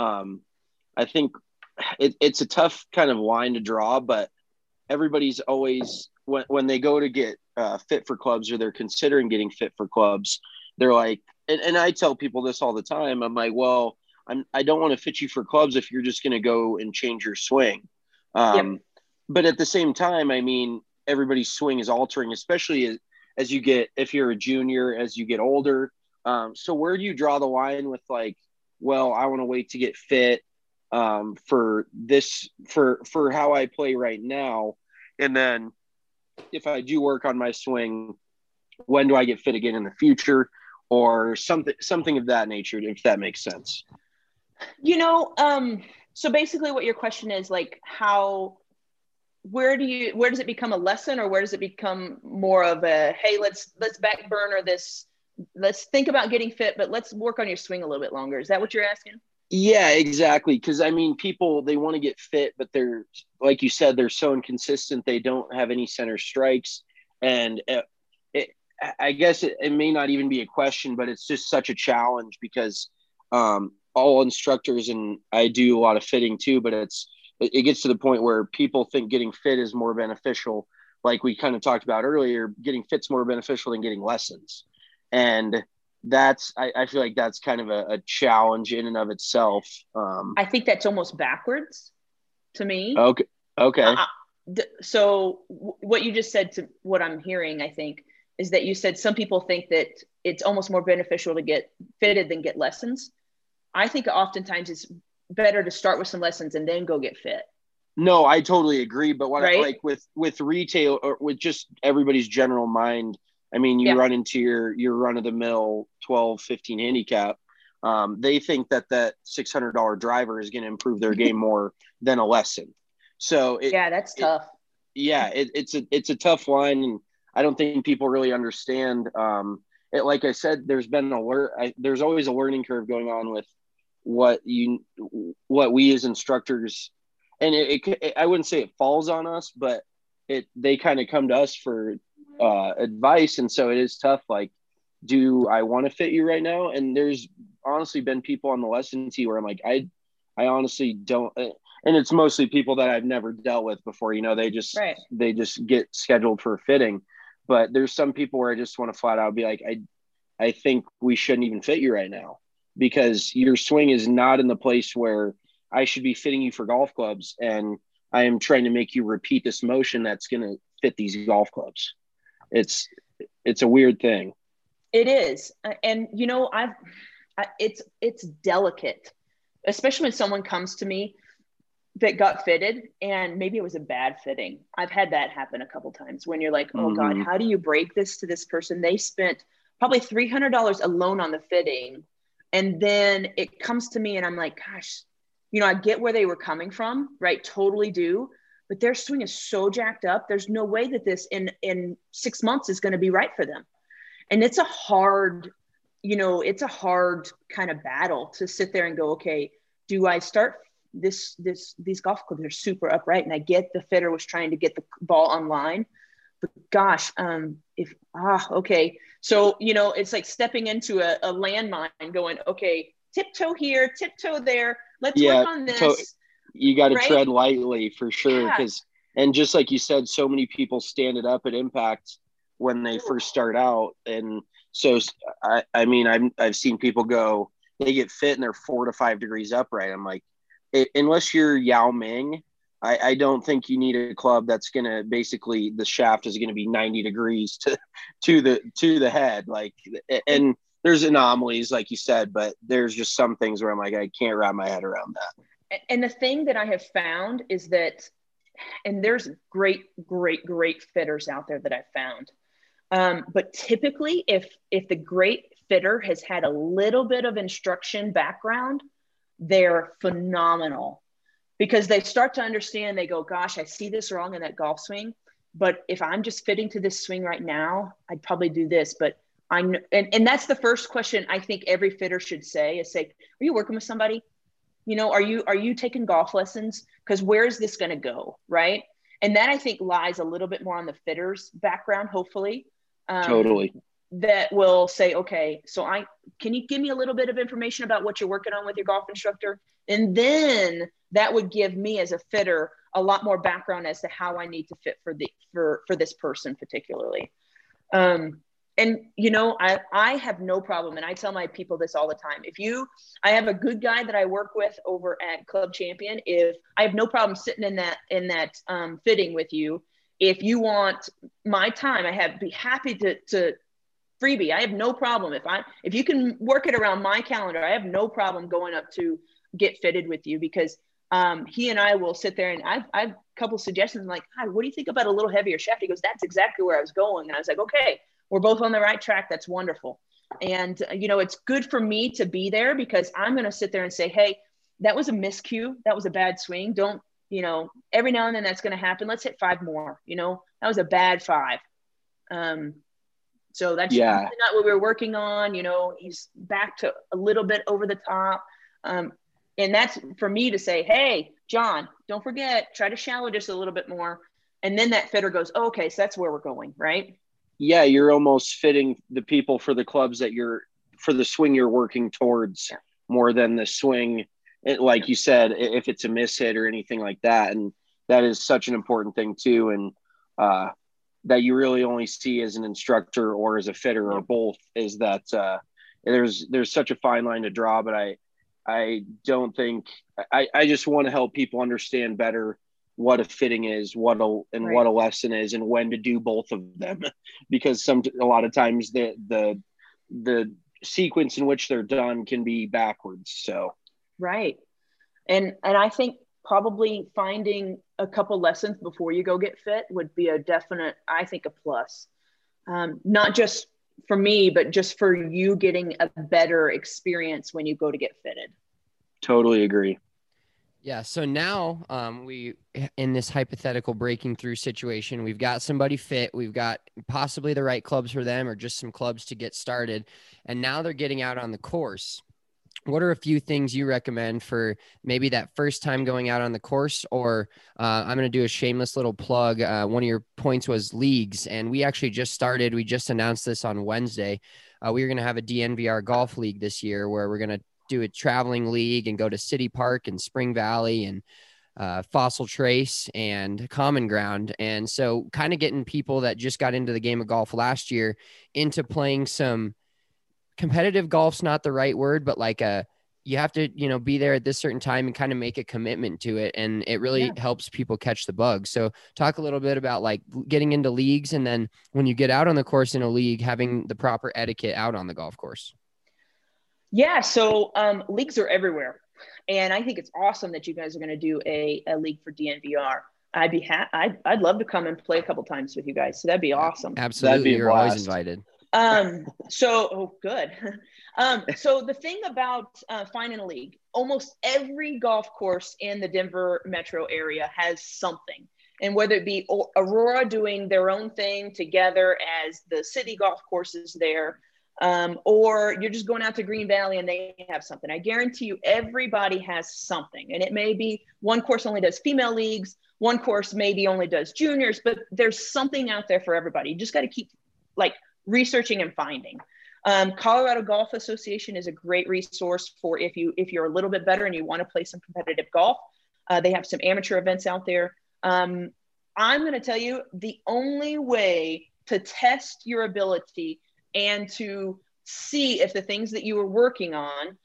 I think it's a tough kind of line to draw, but everybody's always, when they go to get fit for clubs, or they're considering getting fit for clubs, they're like, and I tell people this all the time. I'm like, well, I don't want to fit you for clubs if you're just going to go and change your swing. But at the same time, I mean, everybody's swing is altering, especially as you get, if you're a junior, as you get older. So where do you draw the line with like, well, I want to wait to get fit for how I play right now. And then if I do work on my swing, when do I get fit again in the future, or something of that nature, if that makes sense? So basically what your question is like, where does it become a lesson, or where does it become more of a, hey, let's back burner this, let's think about getting fit, but let's work on your swing a little bit longer? Is that what you're asking? Yeah, exactly. Because I mean, people, they want to get fit, but they're, like you said, they're so inconsistent. They don't have any center strikes. And I guess it may not even be a question, but it's just such a challenge, because all instructors, and I do a lot of fitting too, but it gets to the point where people think getting fit is more beneficial. Like we kind of talked about earlier, getting fit's more beneficial than getting lessons. And I feel like that's kind of a challenge in and of itself. I think that's almost backwards to me. Okay. So what you just said, to what I'm hearing, I think, is that you said some people think that it's almost more beneficial to get fitted than get lessons. I think oftentimes it's better to start with some lessons and then go get fit. No, I totally agree. But what I like with retail, or with just everybody's general mind, I mean, you run into your run-of-the-mill 12, 15 handicap. They think that $600 driver is going to improve their game more than a lesson. So that's tough. It's a tough line, and I don't think people really understand. Like I said, there's always a learning curve going on with what we as instructors, and I wouldn't say it falls on us, but they kind of come to us for advice. And so it is tough. Like, do I want to fit you right now? And there's honestly been people on the lesson tee where I'm like, I honestly don't. And it's mostly people that I've never dealt with before. They just get scheduled for fitting. But there's some people where I just want to flat out be like, I think we shouldn't even fit you right now, because your swing is not in the place where I should be fitting you for golf clubs. And I am trying to make you repeat this motion that's going to fit these golf clubs. It's a weird thing. It is. And, it's delicate, especially when someone comes to me that got fitted, and maybe it was a bad fitting. I've had that happen a couple times when you're like, oh God, how do you break this to this person? They spent probably $300 alone on the fitting. And then it comes to me and I'm like, gosh, you know, I get where they were coming from, right? Totally do. But their swing is so jacked up. There's no way that this in 6 months is going to be right for them. And it's a hard, you know, it's a hard kind of battle to sit there and go, okay, do I start these golf clubs are super upright, and I get the fitter was trying to get the ball online, but gosh, okay. So, you know, it's like stepping into a landmine going, okay, tiptoe here, tiptoe there. Let's work on this. You got to tread lightly for sure. And just like you said, so many people stand it up at Impact when they first start out. And so, I mean, I've seen people go, they get fit and they're 4 to 5 degrees upright. I'm like, unless you're Yao Ming, I don't think you need a club that's going to basically, the shaft is going to be 90 degrees to the head. Like, and there's anomalies, like you said, but there's just some things where I'm like, I can't wrap my head around that. And the thing that I have found is that, and there's great fitters out there that I've found. But typically if the great fitter has had a little bit of instruction background, they're phenomenal, because they start to understand. They go, gosh, I see this wrong in that golf swing, but if I'm just fitting to this swing right now, I'd probably do this. But and that's the first question I think every fitter should say, are you working with somebody? You know, are you taking golf lessons? Because where is this going to go? Right. And that I think lies a little bit more on the fitter's background, hopefully. Totally. That will say, okay, so can you give me a little bit of information about what you're working on with your golf instructor? And then that would give me as a fitter a lot more background as to how I need to fit for this person particularly. And you know, I have no problem. And I tell my people this all the time. I have a good guy that I work with over at Club Champion. If I have no problem sitting in that fitting with you, if you want my time, be happy to freebie. I have no problem. If you can work it around my calendar, I have no problem going up to get fitted with you, because he and I will sit there and I've a couple suggestions like, hi, what do you think about a little heavier shaft? He goes, that's exactly where I was going. And I was like, okay, we're both on the right track. That's wonderful. And, you know, it's good for me to be there, because I'm going to sit there and say, hey, that was a miscue. That was a bad swing. Don't, you know, every now and then that's going to happen. Let's hit 5 more, you know, that was a bad 5. So that's really not what we were working on. You know, he's back to a little bit over the top. And that's for me to say, hey, John, don't forget, try to shallow just a little bit more. And then that fitter goes, oh, okay, so that's where we're going, right? Yeah, you're almost fitting the people for the clubs for the swing you're working towards more than the swing. Like you said, if it's a miss hit or anything like that. And that is such an important thing too. And that you really only see as an instructor or as a fitter or both, is that there's such a fine line to draw. But I don't think I just want to help people understand better what a fitting is, what a lesson is, and when to do both of them, because a lot of times the sequence in which they're done can be backwards. So right. And I think probably finding a couple lessons before you go get fit would be a definite, I think, a plus. Not just for me, but just for you getting a better experience when you go to get fitted. Totally agree. Yeah. So now we, in this hypothetical breaking through situation, we've got somebody fit. We've got possibly the right clubs for them, or just some clubs to get started. And now they're getting out on the course. What are a few things you recommend for maybe that first time going out on the course? Or I'm going to do a shameless little plug. One of your points was leagues. And we actually just started. We just announced this on Wednesday. We are going to have a DNVR golf league this year, where we're going to do a traveling league and go to City Park and Spring Valley and Fossil Trace and Common Ground. And so kind of getting people that just got into the game of golf last year into playing some competitive golf's not the right word, but like you have to, you know, be there at this certain time and kind of make a commitment to it. And it really helps people catch the bug. So talk a little bit about like getting into leagues. And then when you get out on the course in a league, having the proper etiquette out on the golf course. Yeah. So leagues are everywhere. And I think it's awesome that you guys are going to do a league for DNVR. I'd love to come and play a couple times with you guys. So that'd be awesome. Absolutely. That'd be a You're always blast. invited. Good. So the thing about finding a league, almost every golf course in the Denver metro area has something. And whether it be Aurora doing their own thing together as the city golf courses there, or you're just going out to Green Valley and they have something. I guarantee you everybody has something. And it may be one course only does female leagues, one course maybe only does juniors, but there's something out there for everybody. You just got to keep like researching and finding. Colorado Golf Association is a great resource for if you're a little bit better and you want to play some competitive golf. They have some amateur events out there. I'm going to tell you the only way to test your ability and to see if the things that you were working on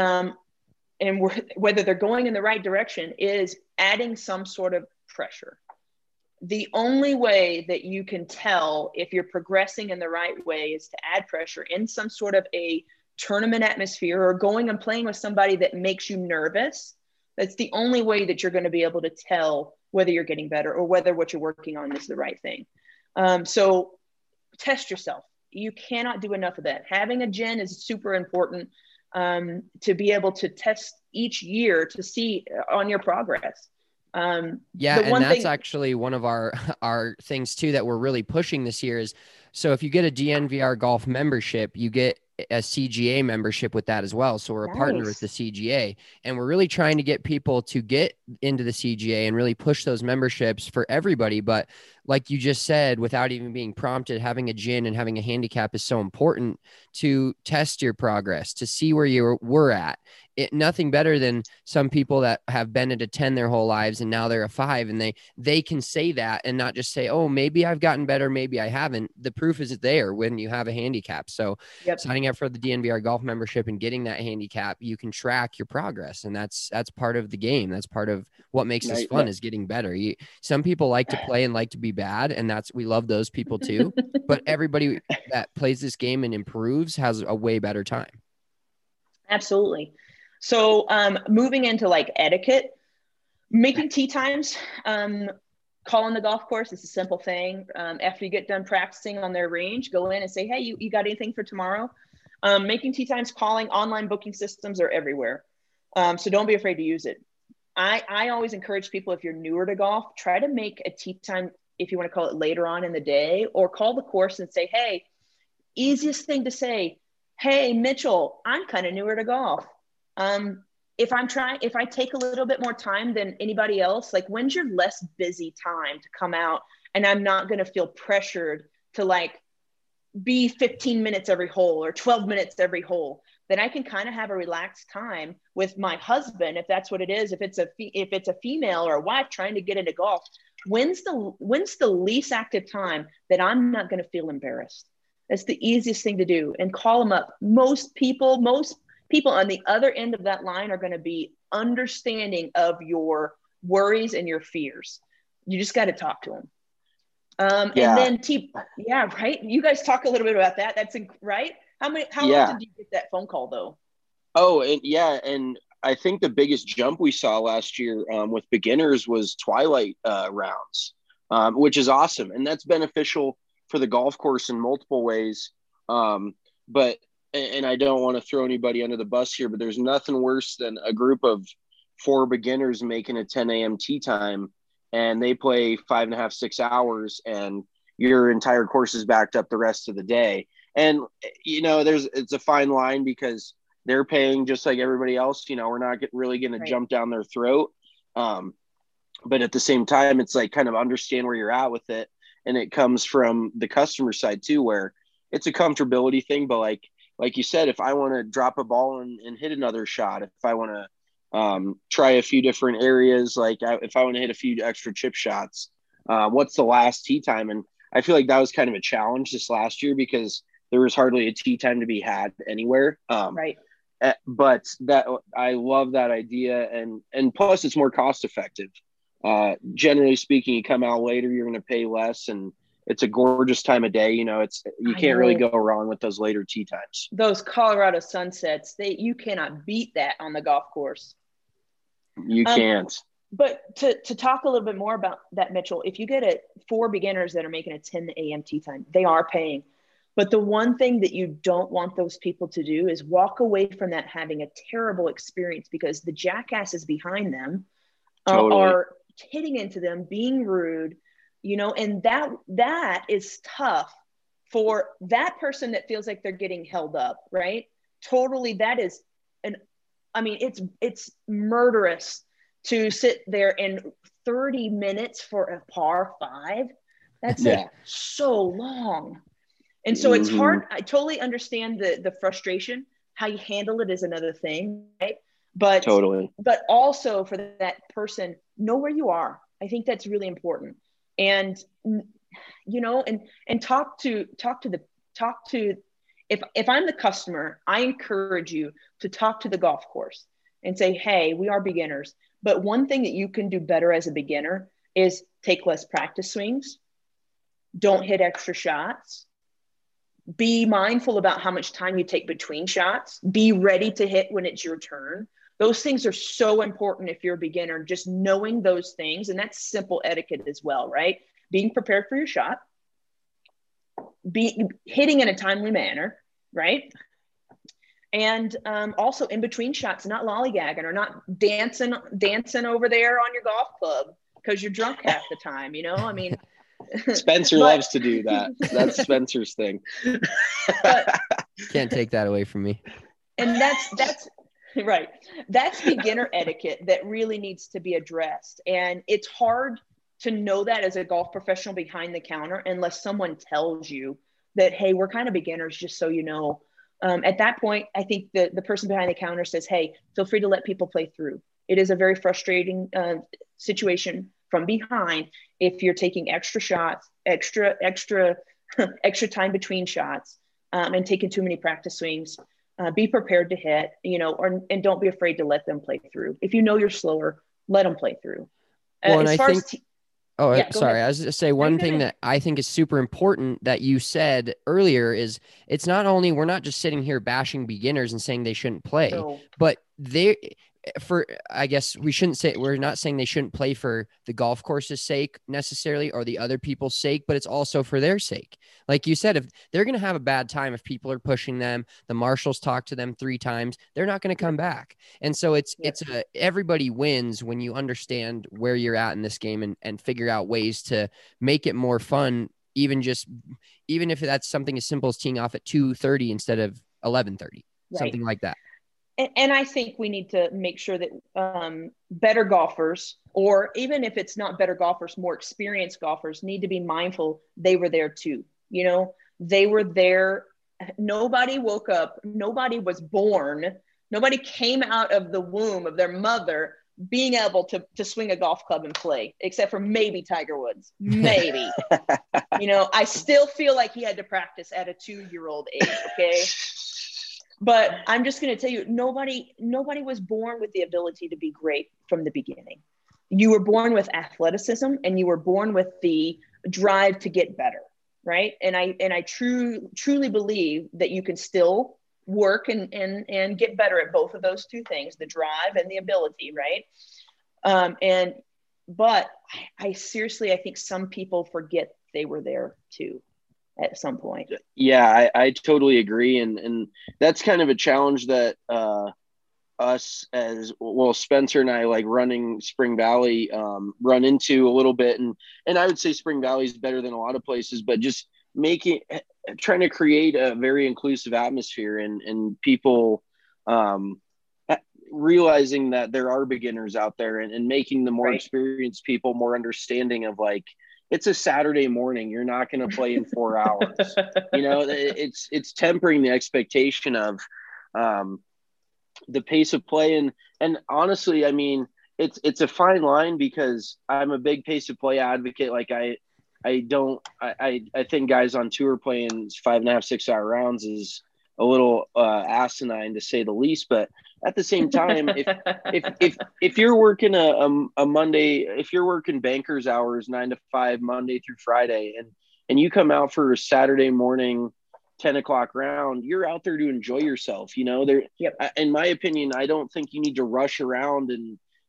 and whether they're going in the right direction is adding some sort of pressure. The only way that you can tell if you're progressing in the right way is to add pressure in some sort of a tournament atmosphere or going and playing with somebody that makes you nervous. That's the only way that you're going to be able to tell whether you're getting better or whether what you're working on is the right thing. So test yourself. You cannot do enough of that. Having a gen is super important to be able to test each year to see on your progress. And that's actually one of our things too that we're really pushing this year is, so if you get a DNVR golf membership, you get a CGA membership with that as well. So we're a partner with the CGA, and we're really trying to get people to get into the CGA and really push those memberships for everybody. But like you just said, without even being prompted, having a gin and having a handicap is so important to test your progress, to see where you were at. Nothing better than some people that have been at a 10 their whole lives and now they're a 5, and they can say that and not just say, oh, maybe I've gotten better, maybe I haven't. The proof is there when you have a handicap. So signing up for the DNVR golf membership and getting that handicap, you can track your progress, and that's part of the game. That's part of what makes this fun is getting better. Some people like to play and like to be bad, and we love those people too. But everybody that plays this game and improves has a way better time. Absolutely. So moving into like etiquette, making tee times, calling the golf course is a simple thing. After you get done practicing on their range, go in and say, hey, you got anything for tomorrow? Making tee times, calling, online booking systems are everywhere. So don't be afraid to use it. I always encourage people, if you're newer to golf, try to make a tee time, if you want to call it later on in the day, or call the course and say, hey, easiest thing to say, hey, Mitchell, I'm kind of newer to golf. If I take a little bit more time than anybody else, like when's your less busy time to come out and I'm not going to feel pressured to like be 15 minutes every hole or 12 minutes every hole, then I can kind of have a relaxed time with my husband. If that's what it is, if it's a female or a wife trying to get into golf, when's the least active time that I'm not going to feel embarrassed? That's the easiest thing to do, and call them up. Most people on the other end of that line are going to be understanding of your worries and your fears. You just got to talk to them. And then right. You guys talk a little bit about that. That's right. How often do you get that phone call though? Oh, and I think the biggest jump we saw last year with beginners was twilight rounds, which is awesome. And that's beneficial for the golf course in multiple ways. But I don't want to throw anybody under the bus here, but there's nothing worse than a group of 4 beginners making a 10 a.m. tee time, and they play 5.5, 6 hours, and your entire course is backed up the rest of the day. And, it's a fine line because they're paying just like everybody else. We're not really going to jump down their throat. But at the same time, it's like kind of understand where you're at with it. And it comes from the customer side too, where it's a comfortability thing, but like you said, if I want to drop a ball and hit another shot, if I want to try a few different areas, if I want to hit a few extra chip shots, what's the last tee time? And I feel like that was kind of a challenge this last year because there was hardly a tee time to be had anywhere. But that I love that idea. And plus it's more cost effective. Generally speaking, you come out later, you're going to pay less, and it's a gorgeous time of day. You can't really go wrong with those later tee times. Those Colorado sunsets, you cannot beat that on the golf course. You can't. But to talk a little bit more about that, Mitchell, if you get 4 beginners that are making a 10 a.m. tee time, they are paying. But the one thing that you don't want those people to do is walk away from that having a terrible experience, because the jackasses behind them are hitting into them, being rude, and that is tough for that person that feels like they're getting held up, right? Totally. That is it's murderous to sit there in 30 minutes for a par 5. That's like so long. And so it's hard. I totally understand the frustration. How you handle it is another thing, right? But but also for that person, know where you are. I think that's really important. And and talk to if I'm the customer, I encourage you to talk to the golf course and say, hey, we are beginners. But one thing that you can do better as a beginner is take less practice swings. Don't hit extra shots. Be mindful about how much time you take between shots. Be ready to hit when it's your turn. Those things are so important if you're a beginner, just knowing those things. And that's simple etiquette as well, right? Being prepared for your shot. Be hitting in a timely manner, right? And also in between shots, not lollygagging or not dancing over there on your golf club because you're drunk half the time, Spencer loves to do that. That's Spencer's thing. Can't take that away from me. And that's right. That's beginner etiquette that really needs to be addressed. And it's hard to know that as a golf professional behind the counter unless someone tells you that, hey, we're kind of beginners, just so you know. At that point, I think the person behind the counter says, hey, feel free to let people play through. It is a very frustrating situation from behind if you're taking extra shots, extra time between shots, and taking too many practice swings. Be prepared to hit, and don't be afraid to let them play through. If you're slower, let them play through. Sorry. I was just say one thing that I think is super important that you said earlier is it's not only, we're not just sitting here bashing beginners and saying they shouldn't play, but I guess we're not saying they shouldn't play for the golf course's sake necessarily or the other people's sake, but it's also for their sake. Like you said, if they're going to have a bad time, if people are pushing them, the marshals talk to them 3 times, they're not going to come back. And so everybody wins when you understand where you're at in this game and figure out ways to make it more fun. Even if that's something as simple as teeing off at 2:30 instead of 11:30, something like that. And I think we need to make sure that better golfers, or even if it's not better golfers, more experienced golfers, need to be mindful they were there too. They were there. Nobody woke up. Nobody was born. Nobody came out of the womb of their mother being able to swing a golf club and play, except for maybe Tiger Woods. Maybe. I still feel like he had to practice at a 2-year-old age, okay? But I'm just going to tell you, nobody was born with the ability to be great from the beginning. You were born with athleticism and you were born with the drive to get better, right? And I truly believe that you can still work and get better at both of those 2 things, the drive and the ability, right? But I seriously, I think some people forget they were there too at some point. Yeah, I totally agree. And that's kind of a challenge that us as well, Spencer and I, like running Spring Valley, run into a little bit. And I would say Spring Valley is better than a lot of places, but just trying to create a very inclusive atmosphere and people realizing that there are beginners out there and making the more experienced people more understanding of, like, it's a Saturday morning. You're not going to play in 4 hours. It's tempering the expectation of the pace of play. And honestly, I mean, it's a fine line because I'm a big pace of play advocate. Like I think guys on tour playing 5.5, 6 hour rounds is a little asinine to say the least. But at the same time, if you're working a Monday, if you're working banker's hours 9 to 5 Monday through Friday, and you come out for a Saturday morning 10 o'clock round, you're out there to enjoy yourself. In my opinion, I don't think you need to rush around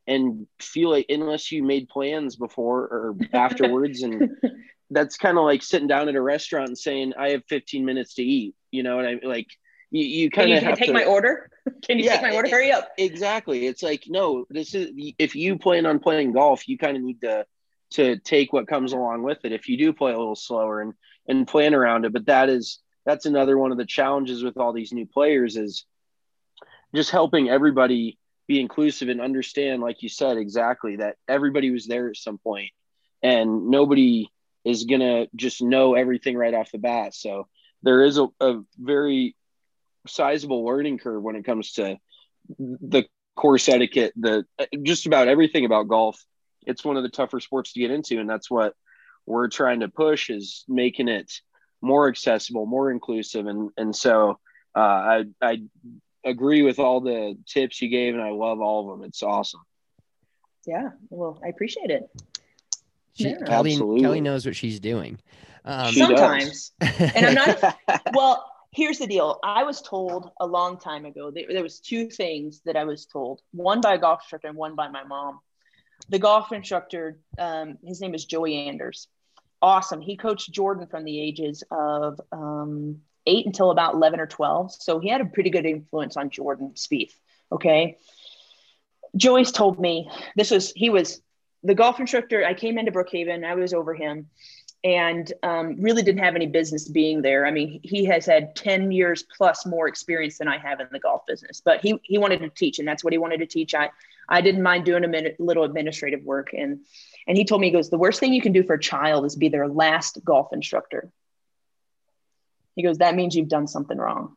and feel like, unless you made plans before or afterwards, and that's kind of like sitting down at a restaurant and saying, I have 15 minutes to eat, you know, and I like, you kind of have take my order. Can you take my order? Hurry up. Exactly. It's like, no, this is, if you plan on playing golf, you kind of need to take what comes along with it. If you do play a little slower and plan around it. But that's another one of the challenges with all these new players, is just helping everybody be inclusive and understand, like you said, exactly, that everybody was there at some point and nobody is going to just know everything right off the bat. So there is a very sizable learning curve when it comes to the course etiquette, just about everything about golf. It's one of the tougher sports to get into. And that's what we're trying to push, is making it more accessible, more inclusive. And so I agree with all the tips you gave, and I love all of them. It's awesome. Yeah. Well, I appreciate it. Kelly knows what she's doing. Sometimes. And I'm not, well, here's the deal. I was told a long time ago, there was two things that I was told, one by a golf instructor and one by my mom. The golf instructor, his name is Joey Anders. Awesome. He coached Jordan from the ages of 8 until about 11 or 12. So he had a pretty good influence on Jordan Spieth. Okay. Joey's told me he was the golf instructor. I came into Brookhaven. I was over him and really didn't have any business being there. I mean, he has had 10 years plus more experience than I have in the golf business, but he wanted to teach, and that's what he wanted to teach. I didn't mind doing a little administrative work. And he told me, he goes, the worst thing you can do for a child is be their last golf instructor. He goes, that means you've done something wrong.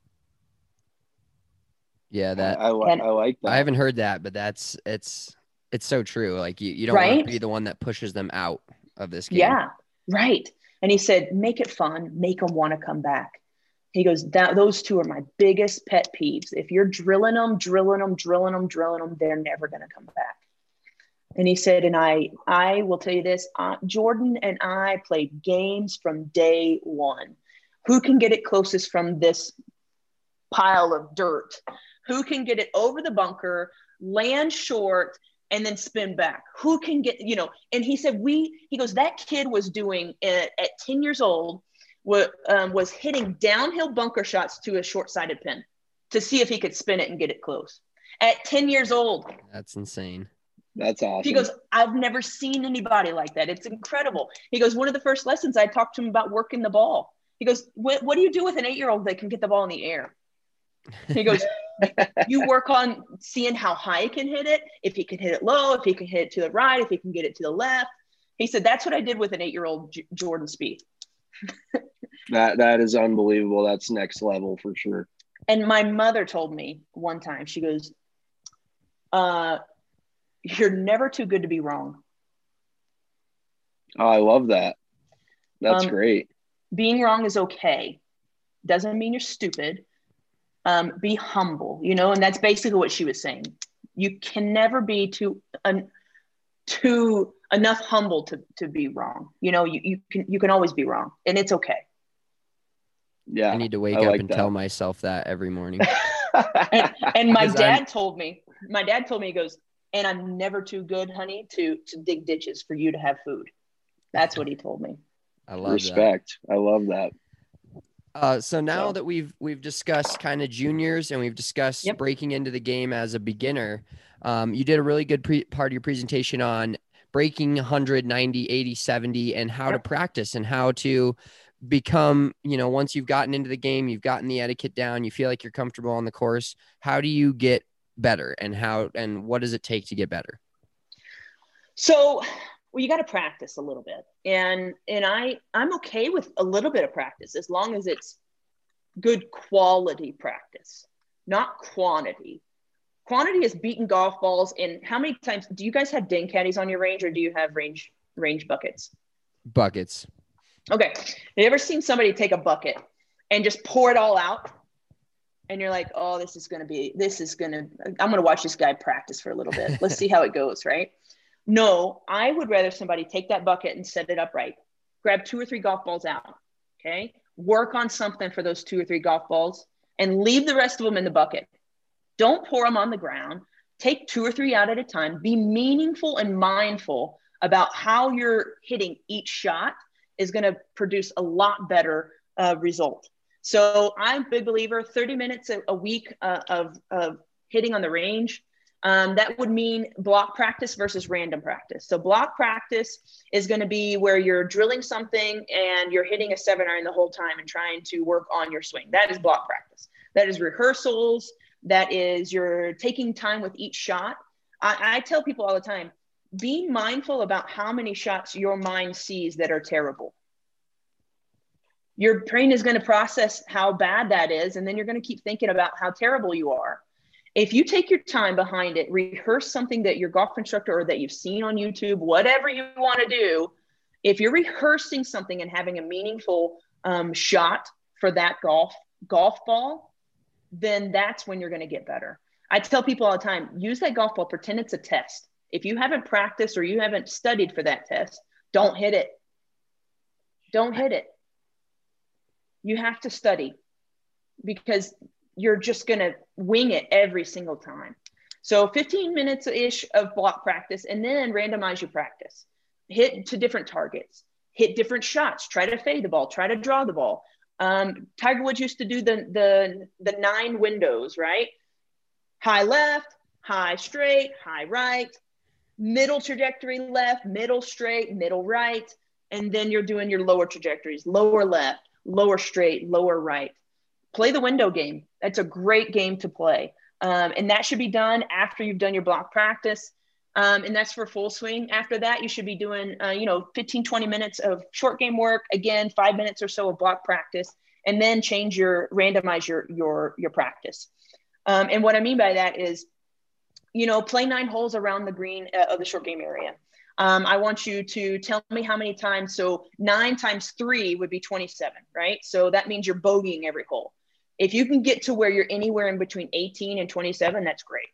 Yeah, I like that. I haven't heard that, but it's so true. Like you don't want to be the one that pushes them out of this game. Yeah, right. And he said, make it fun, make them want to come back. He goes, those two are my biggest pet peeves. If you're drilling them, they're never going to come back. And he said, and I will tell you this, Jordan and I played games from day one. Who can get it closest from this pile of dirt? Who can get it over the bunker, land short, and then spin back? Who can get, and he said, he goes, that kid was doing at 10 years old, was hitting downhill bunker shots to a short-sided pin to see if he could spin it and get it close. At 10 years old. That's insane. That's awesome. He goes, I've never seen anybody like that. It's incredible. He goes, one of the first lessons I talked to him about working the ball. He goes, what do you do with an 8-year-old that can get the ball in the air? He goes, you work on seeing how high he can hit it, if he can hit it low, if he can hit it to the right, if he can get it to the left. He said, that's what I did with an 8-year-old Jordan Spieth. That is unbelievable. That's next level for sure. And my mother told me one time, she goes, you're never too good to be wrong. Oh, I love that. That's great. Being wrong is okay. Doesn't mean you're stupid. Be humble, and that's basically what she was saying. You can never be too enough humble to be wrong. You can always be wrong, and it's okay. Yeah. I need to wake up and tell myself that every morning. and my dad told me, he goes, and I'm never too good, honey, to dig ditches for you to have food. That's what he told me. I love respect. That. I love that. So now that we've discussed kind of juniors and we've discussed breaking into the game as a beginner, you did a really good part of your presentation on breaking 100, 90, 80, 70 and how to practice and how to become, once you've gotten into the game, you've gotten the etiquette down, you feel like you're comfortable on the course. How do you get better and what does it take to get better? So, well, you got to practice a little bit. And I'm okay with a little bit of practice as long as it's good quality practice, not quantity. Quantity is beating golf balls. And how many times do you guys have ding caddies on your range, or do you have range buckets? Buckets. Okay. Have you ever seen somebody take a bucket and just pour it all out? And you're like, oh, I'm going to watch this guy practice for a little bit. Let's see how it goes. Right. No, I would rather somebody take that bucket and set it up right. Grab 2 or 3 golf balls out. Okay. Work on something for those 2 or 3 golf balls and leave the rest of them in the bucket. Don't pour them on the ground. take 2 or 3 out at a time, be meaningful and mindful about how you're hitting each shot is going to produce a lot better result. So I'm a big believer, 30 minutes a week of hitting on the range. That would mean block practice versus random practice. So block practice is going to be where you're drilling something and you're hitting a 7-iron the whole time and trying to work on your swing. That is block practice. That is rehearsals. That is you're taking time with each shot. I tell people all the time, be mindful about how many shots your mind sees that are terrible. Your brain is going to process how bad that is, and then you're going to keep thinking about how terrible you are. If you take your time behind it, rehearse something that your golf instructor or that you've seen on YouTube, whatever you want to do, if you're rehearsing something and having a meaningful shot for that golf ball, then that's when you're going to get better. I tell people all the time, use that golf ball, pretend it's a test. If you haven't practiced or you haven't studied for that test, don't hit it. Don't hit it. You have to study because you're just going to wing it every single time. So 15 minutes-ish of block practice, and then randomize your practice. Hit to different targets. Hit different shots. Try to fade the ball. Try to draw the ball. Tiger Woods used to do the 9 windows, right? High left, high straight, high right, middle trajectory left, middle straight, middle right, and then you're doing your lower trajectories, lower left, lower straight, lower right. Play the window game. That's a great game to play. And that should be done after you've done your block practice. And that's for full swing. After that, you should be doing, 15, 20 minutes of short game work. Again, 5 minutes or so of block practice, and then randomize your practice. And what I mean by that is, play 9 holes around the green of the short game area. I want you to tell me how many times. So 9 times 3 would be 27, right? So that means you're bogeying every hole. If you can get to where you're anywhere in between 18 and 27, that's great.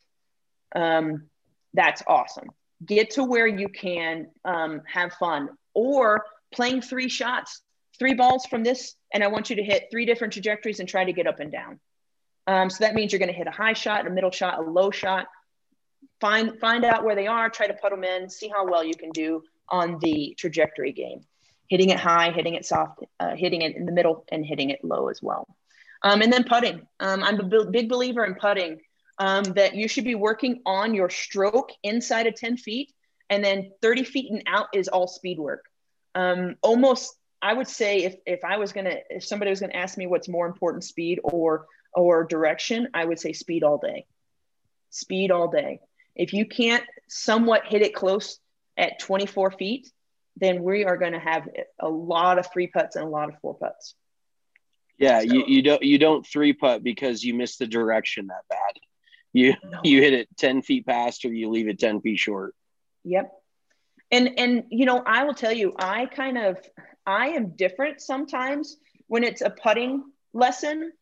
That's awesome. Get to where you can have fun, or playing 3 shots, 3 balls from this. And I want you to hit 3 different trajectories and try to get up and down. So that means you're going to hit a high shot, a middle shot, a low shot. Find out where they are, try to put them in, see how well you can do on the trajectory game. Hitting it high, hitting it soft, hitting it in the middle, and hitting it low as well. And then putting. I'm a big believer in putting, that you should be working on your stroke inside of 10 feet, and then 30 feet and out is all speed work. Almost, I would say if somebody was gonna ask me what's more important, speed or direction, I would say speed all day. Speed all day. If you can't somewhat hit it close at 24 feet, then we are going to have a lot of 3 putts and a lot of 4 putts. Yeah, so, you don't 3 putt because you missed the direction that bad. You hit it 10 feet past, or you leave it 10 feet short. Yep. And I will tell you, I am different sometimes when it's a putting lesson.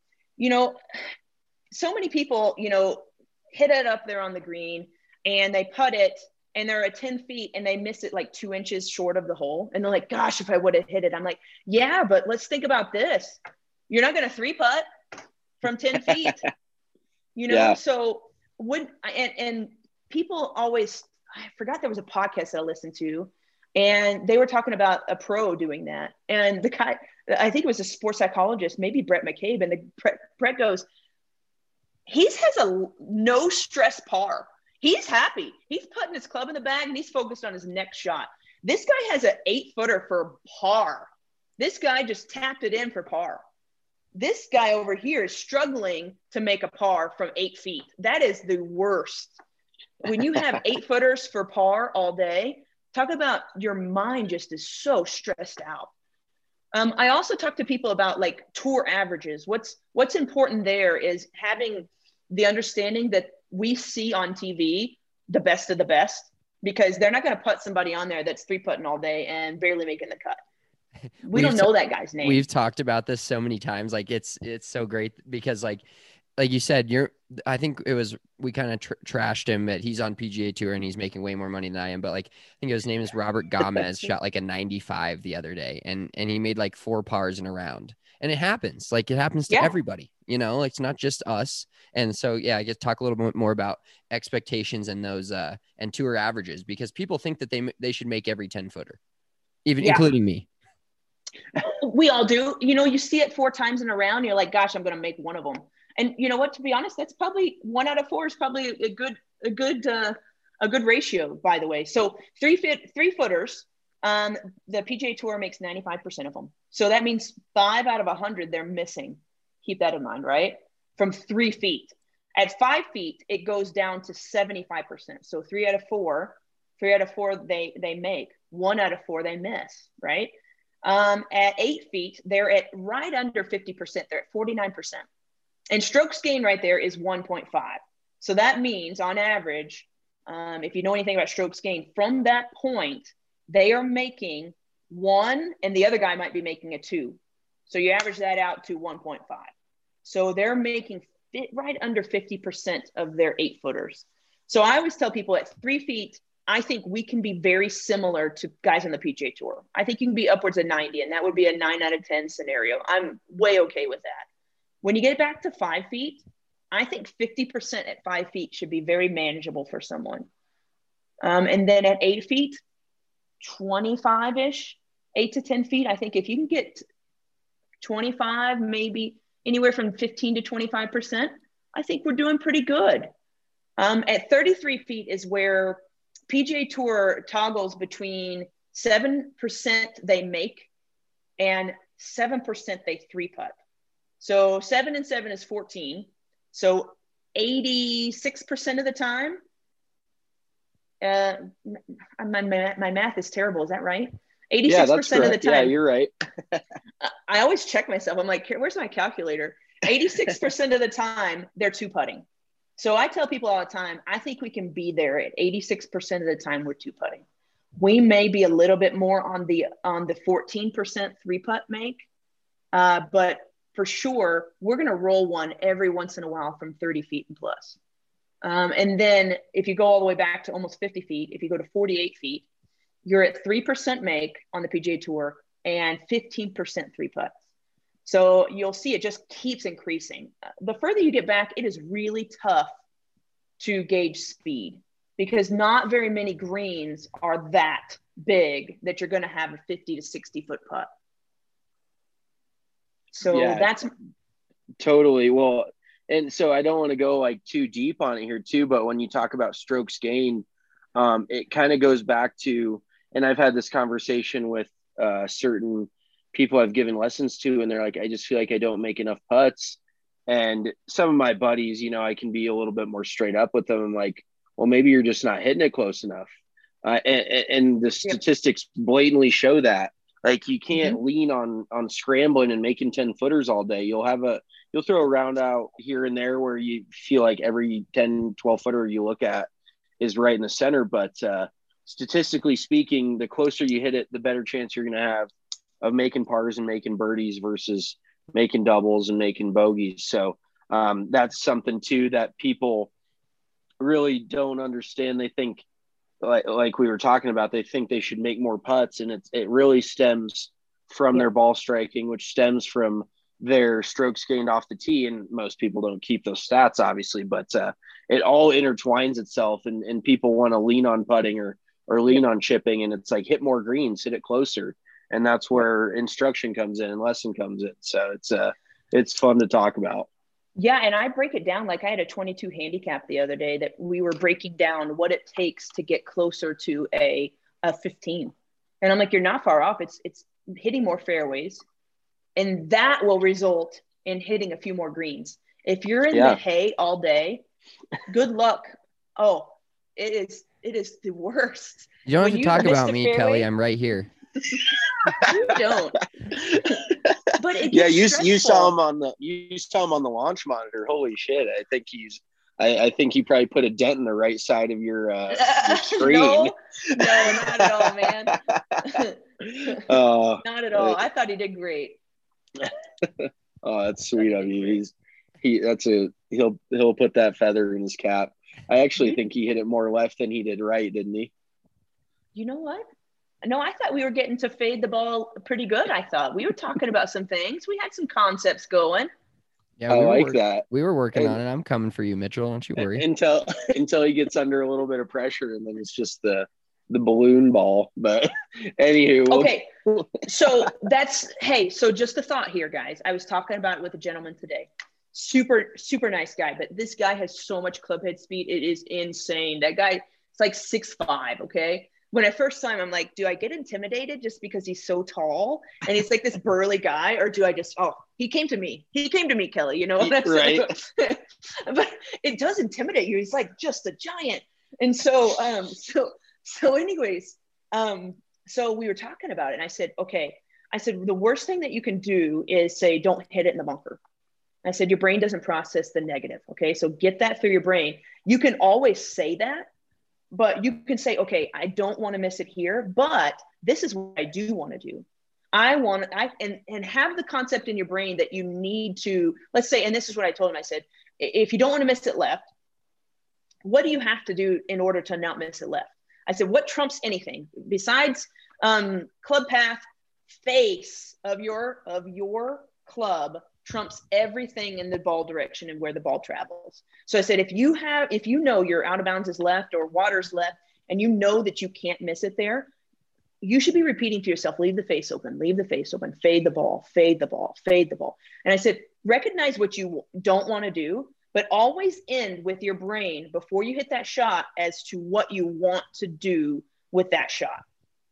So many people, hit it up there on the green and they putt it and they're at 10 feet and they miss it like 2 inches short of the hole. And they're like, gosh, if I would have hit it. I'm like, yeah, but let's think about this. You're not going to 3 putt from 10 feet, Yeah. So and people always, I forgot there was a podcast that I listened to, and they were talking about a pro doing that. And the guy, I think it was a sports psychologist, maybe Brett McCabe. And Brett goes, he has a no stress par. He's happy. He's putting his club in the bag and he's focused on his next shot. This guy has an 8-footer for par. This guy just tapped it in for par. This guy over here is struggling to make a par from 8 feet. That is the worst. When you have 8-footers for par all day, talk about your mind just is so stressed out. I also talk to people about like tour averages. What's important there is having the understanding that we see on TV the best of the best, because they're not going to put somebody on there that's 3-putting all day and barely making the cut. We don't know that guy's name. We've talked about this so many times. Like it's so great because like you said, I think it was, we kind of trashed him that he's on PGA Tour and he's making way more money than I am. But like, I think his name is Robert Gomez, shot like a 95 the other day, and he made like 4 pars in a round. And it happens. Like, it happens to everybody, you know, like, it's not just us. And so, yeah, I guess talk a little bit more about expectations and those and tour averages, because people think that they should make every 10-footer, even including me. We all do. You know, you see it 4 times in a round, you're like, gosh, I'm going to make one of them. And you know what, to be honest, that's probably 1 out of 4 is probably a good ratio, by the way. So 3-footers, the PGA Tour makes 95% of them. So that means 5 out of 100 they're missing. Keep that in mind, right? From 3 feet. At 5 feet, it goes down to 75%. So 3 out of 4 they make. 1 out of 4 they miss, right? At 8 feet, they're at right under 50%. They're at 49%. And strokes gained right there is 1.5. So that means on average, if you know anything about strokes gained, from that point, they are making 1 and the other guy might be making a 2. So you average that out to 1.5. So they're making right under 50% of their 8-footers. So I always tell people at 3 feet, I think we can be very similar to guys on the PGA Tour. I think you can be upwards of 90, and that would be a 9 out of 10 scenario. I'm way okay with that. When you get back to 5 feet, I think 50% at 5 feet should be very manageable for someone. And then at 8 feet, 25-ish, 8 to 10 feet. I think if you can get 25, maybe anywhere from 15 to 25%, I think we're doing pretty good. At 33 feet is where PGA Tour toggles between 7% they make and 7% they 3-putt. So 7 and 7 is 14. So 86% of the time, my math is terrible. Is that right? 86% of the time. Yeah, you're right. I always check myself. I'm like, where's my calculator? 86% of the time, they're 2-putting. So I tell people all the time, I think we can be there at 86% of the time we're 2-putting. We may be a little bit more on the 14% 3-putt make, but for sure, we're going to roll one every once in a while from 30 feet and plus. And then if you go all the way back to almost 50 feet, if you go to 48 feet, you're at 3% make on the PGA Tour and 15% 3-putts. So you'll see it just keeps increasing. The further you get back, it is really tough to gauge speed because not very many greens are that big that you're going to have a 50 to 60 foot putt. So that's totally. Well, and so I don't want to go like too deep on it here too, but when you talk about strokes gained, it kind of goes back to, and I've had this conversation with certain people I've given lessons to, and they're like, I just feel like I don't make enough putts. And some of my buddies, you know, I can be a little bit more straight up with them. I'm like, well, maybe you're just not hitting it close enough. And the statistics blatantly show that. Like, you can't lean on scrambling and making 10-footers all day. You'll throw a round out here and there where you feel like every 10, 12-footer you look at is right in the center. But statistically speaking, the closer you hit it, the better chance you're going to have of making pars and making birdies versus making doubles and making bogeys. So that's something too that people really don't understand. They think, like we were talking about, they think they should make more putts, and it really stems from their ball striking, which stems from their strokes gained off the tee. And most people don't keep those stats, obviously, but it all intertwines itself, and people want to lean on putting or lean on chipping, and it's like, hit more greens, hit it closer. And that's where instruction comes in and lesson comes in. So it's fun to talk about. Yeah. And I break it down. Like, I had a 22 handicap the other day that we were breaking down what it takes to get closer to a 15. And I'm like, you're not far off. It's hitting more fairways, and that will result in hitting a few more greens. If you're in the hay all day, good luck. Oh, it is the worst. You don't have to talk about me, Kelly. I'm right here. You don't. But it you saw him on the launch monitor. Holy shit! I think he probably put a dent in the right side of your screen. No, not at all, man. Not at all. I thought he did great. Oh, that's sweet of you. He'll put that feather in his cap. I actually think he hit it more left than he did right, didn't he? You know what? No, I thought we were getting to fade the ball pretty good. I thought we were talking about some things. We had some concepts going. Yeah, I like that. We were working on it. I'm coming for you, Mitchell. Don't you worry. Until he gets under a little bit of pressure, and then it's just the balloon ball. But anywho, okay. So so just a thought here, guys. I was talking about it with a gentleman today. Super, super nice guy, but this guy has so much club head speed. It is insane. That guy, it's like 6'5", okay? When I first saw him, I'm like, do I get intimidated just because he's so tall and he's like this burly guy, or do I just, he came to me, Kelly, you know what I'm saying? Right. But it does intimidate you. He's like just a giant. And so anyways, so we were talking about it, and I said, the worst thing that you can do is say, don't hit it in the bunker. I said, your brain doesn't process the negative. Okay. So get that through your brain. You can always say that, but you can say, okay, I don't want to miss it here, but this is what I do want to do. And have the concept in your brain that you need to, let's say, and this is what I told him. I said, if you don't want to miss it left, what do you have to do in order to not miss it left? I said, what trumps anything besides club path? Face of your club trumps everything in the ball direction and where the ball travels. So I said, if you know your out of bounds is left or water's left, and you know that you can't miss it there, you should be repeating to yourself, leave the face open, fade the ball, fade the ball, fade the ball. And I said, recognize what you don't want to do, but always end with your brain before you hit that shot as to what you want to do with that shot.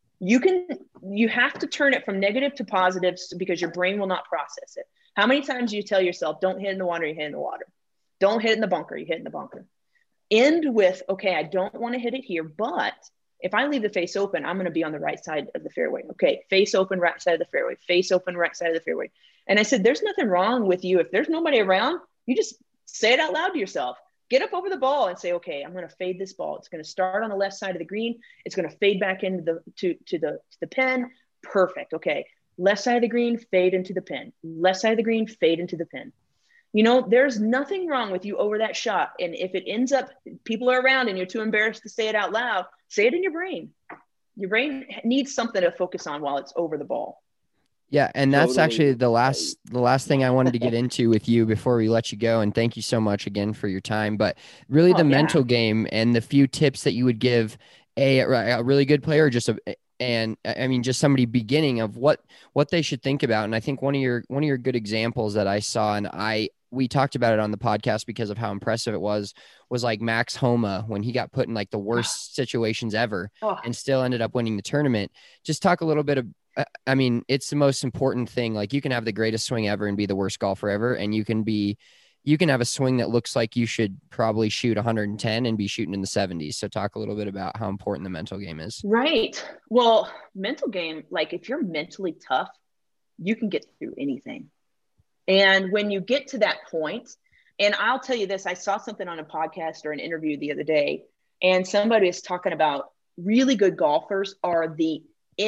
You have to turn it from negative to positive because your brain will not process it. How many times do you tell yourself, don't hit in the water, you hit in the water. Don't hit in the bunker, you hit in the bunker. End with, okay, I don't want to hit it here, but if I leave the face open, I'm going to be on the right side of the fairway. Okay, face open, right side of the fairway, face open, right side of the fairway. And I said, there's nothing wrong with you. If there's nobody around, you just say it out loud to yourself. Get up over the ball and say, okay, I'm going to fade this ball. It's going to start on the left side of the green. It's going to fade back into the pin. Perfect. Okay. Left side of the green, fade into the pin. Left side of the green, fade into the pin. You know, there's nothing wrong with you over that shot. And if it ends up, people are around and you're too embarrassed to say it out loud, say it in your brain. Your brain needs something to focus on while it's over the ball. Yeah. And that's actually the last thing I wanted to get into with you before we let you go. And thank you so much again for your time, but really mental game and the few tips that you would give a really good player, just somebody beginning of what they should think about. And I think one of your good examples that I saw, and we talked about it on the podcast because of how impressive it was like Max Homa when he got put in like the worst situations ever and still ended up winning the tournament. Just talk a little bit of, it's the most important thing. Like you can have the greatest swing ever and be the worst golfer ever. And you can have a swing that looks like you should probably shoot 110 and be shooting in the 70s. So talk a little bit about how important the mental game is. Right. Well, mental game, like if you're mentally tough, you can get through anything. And when you get to that point, and I'll tell you this, I saw something on a podcast or an interview the other day, and somebody was talking about really good golfers are the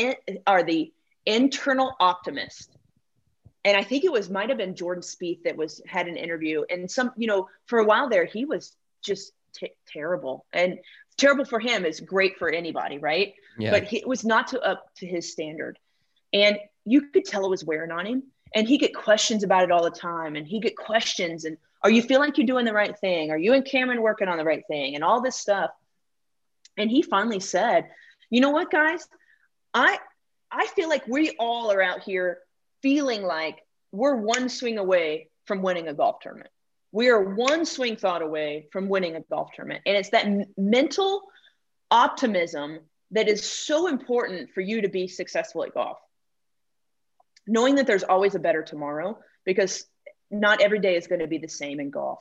internal optimist. And I think might have been Jordan Spieth that had an interview, and for a while there, he was just terrible, and terrible for him is great for anybody. Right. Yeah. But it was not up to his standard. And you could tell it was wearing on him, and he get questions about it all the time. And he get questions and, are you feeling like you're doing the right thing? Are you and Cameron working on the right thing? And all this stuff. And he finally said, you know what, guys, I feel like we all are out here feeling like we're one swing away from winning a golf tournament. We are one swing thought away from winning a golf tournament. And it's that mental optimism that is so important for you to be successful at golf. Knowing that there's always a better tomorrow, because not every day is going to be the same in golf.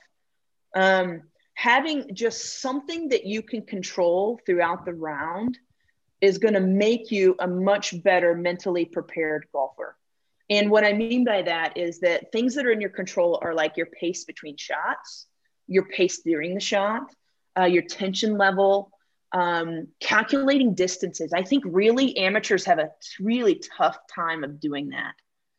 Having just something that you can control throughout the round is going to make you a much better mentally prepared golfer. And what I mean by that is that things that are in your control are like your pace between shots, your pace during the shot, your tension level, calculating distances. I think really amateurs have a really tough time of doing that.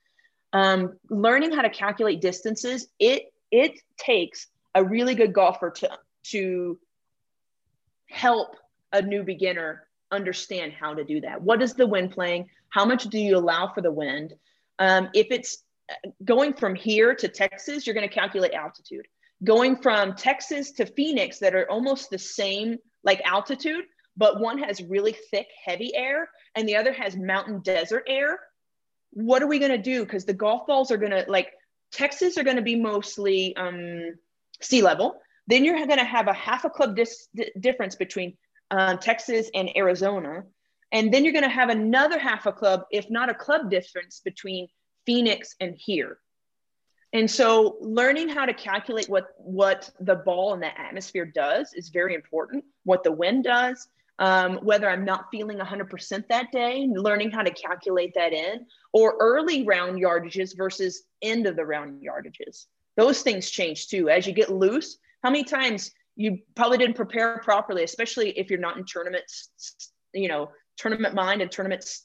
Learning how to calculate distances, it takes a really good golfer to help a new beginner understand how to do that. What is the wind playing? How much do you allow for the wind? If it's going from here to Texas, you're going to calculate altitude. Going from Texas to Phoenix, that are almost the same like altitude, but one has really thick, heavy air and the other has mountain desert air. What are we going to do? Because the golf balls are going to, like, Texas are going to be mostly sea level. Then you're going to have a half a club difference between Texas and Arizona. And then you're going to have another half a club, if not a club difference, between Phoenix and here. And so learning how to calculate what the ball and the atmosphere does is very important. What the wind does, whether I'm not feeling 100% that day, learning how to calculate that in, or early round yardages versus end of the round yardages. Those things change too. As you get loose, how many times you probably didn't prepare properly, especially if you're not in tournaments, tournament mind and tournaments,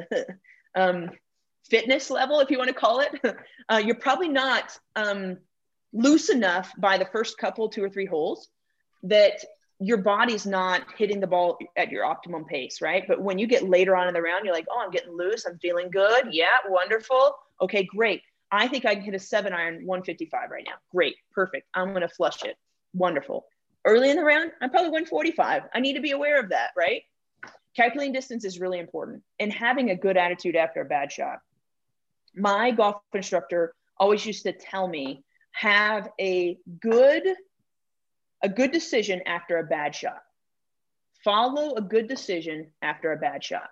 fitness level, if you want to call it, you're probably not loose enough by the first couple, 2 or 3 holes, that your body's not hitting the ball at your optimum pace, right? But when you get later on in the round, you're like, oh, I'm getting loose. I'm feeling good. Yeah, wonderful. Okay, great. I think I can hit a 7-iron 155 right now. Great, perfect. I'm going to flush it. Wonderful. Early in the round, I'm probably 145. I need to be aware of that, right? Calculating distance is really important, and having a good attitude after a bad shot. My golf instructor always used to tell me, have a good decision after a bad shot. Follow a good decision after a bad shot.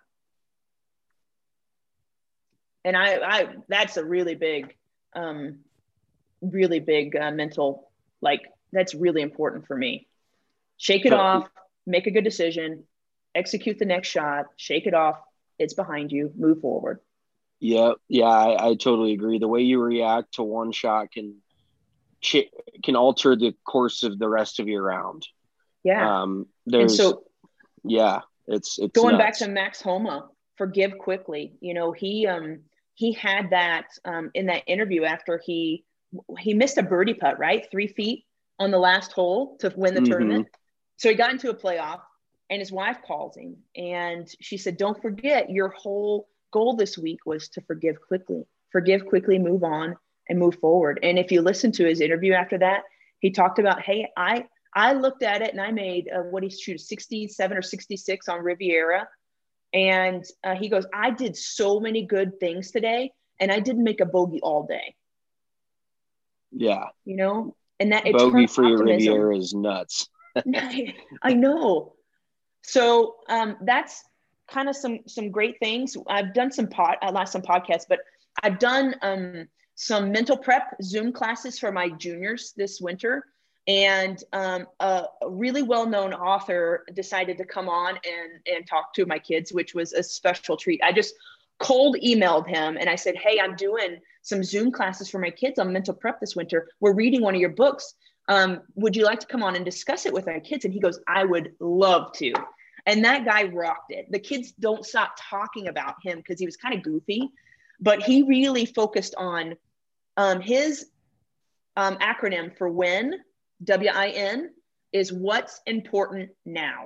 And I that's a really big mental, like, that's really important for me. Shake it off, make a good decision, execute the next shot, shake it off. It's behind you, move forward. Yeah, I totally agree. The way you react to one shot can alter the course of the rest of your round. Yeah. It's going nuts. back to Max Homa, forgive quickly. He had that in that interview after he missed a birdie putt, right? 3 feet on the last hole to win the tournament. So he got into a playoff, and his wife calls him and she said, don't forget, your whole goal this week was to forgive quickly, move on and move forward. And if you listen to his interview after that, he talked about, hey, I looked at it and I made what he shoot 67 or 66 on Riviera. And he goes, I did so many good things today and I didn't make a bogey all day. Yeah. And that bogey free Riviera is nuts. I know. So that's kind of some great things. I've done some podcasts, but I've done some mental prep Zoom classes for my juniors this winter. And a really well-known author decided to come on and talk to my kids, which was a special treat. I just cold emailed him and I said, hey, I'm doing some Zoom classes for my kids on mental prep this winter. We're reading one of your books. Would you like to come on and discuss it with our kids? And he goes, I would love to. And that guy rocked it. The kids don't stop talking about him because he was kind of goofy, but he really focused on his acronym for WIN, W-I-N, is what's important now.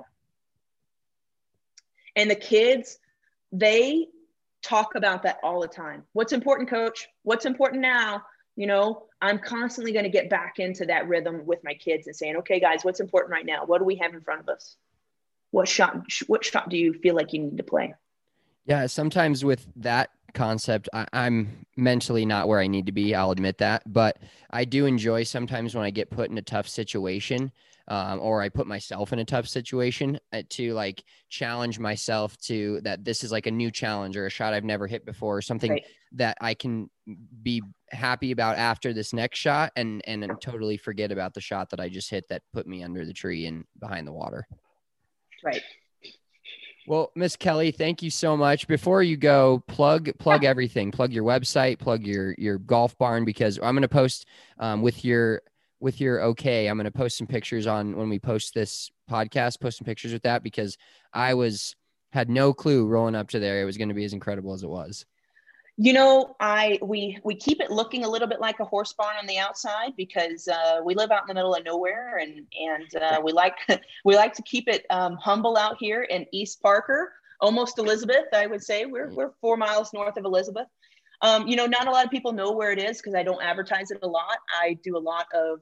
And the kids, they talk about that all the time. What's important, coach? What's important now? I'm constantly going to get back into that rhythm with my kids and saying, okay, guys, what's important right now? What do we have in front of us? What shot do you feel like you need to play? Yeah, sometimes with that concept, I'm mentally not where I need to be. I'll admit that. But I do enjoy sometimes when I get put in a tough situation or I put myself in a tough situation to like challenge myself to that this is like a new challenge or a shot I've never hit before or something right. That I can be happy about after this next shot and totally forget about the shot that I just hit that put me under the tree and behind the water. Right. Well, Miss Kelly, thank you so much. Before you go, plug everything. Plug your website, plug your golf barn, because I'm going to post with your okay. I'm going to post some pictures on when we post this podcast, post some pictures with that, because I had no clue rolling up to there it was going to be as incredible as it was. You know, we keep it looking a little bit like a horse barn on the outside because we live out in the middle of nowhere, and we like to keep it humble out here in East Parker, almost Elizabeth. I would say we're 4 miles north of Elizabeth. You know, not a lot of people know where it is because I don't advertise it a lot. I do a lot of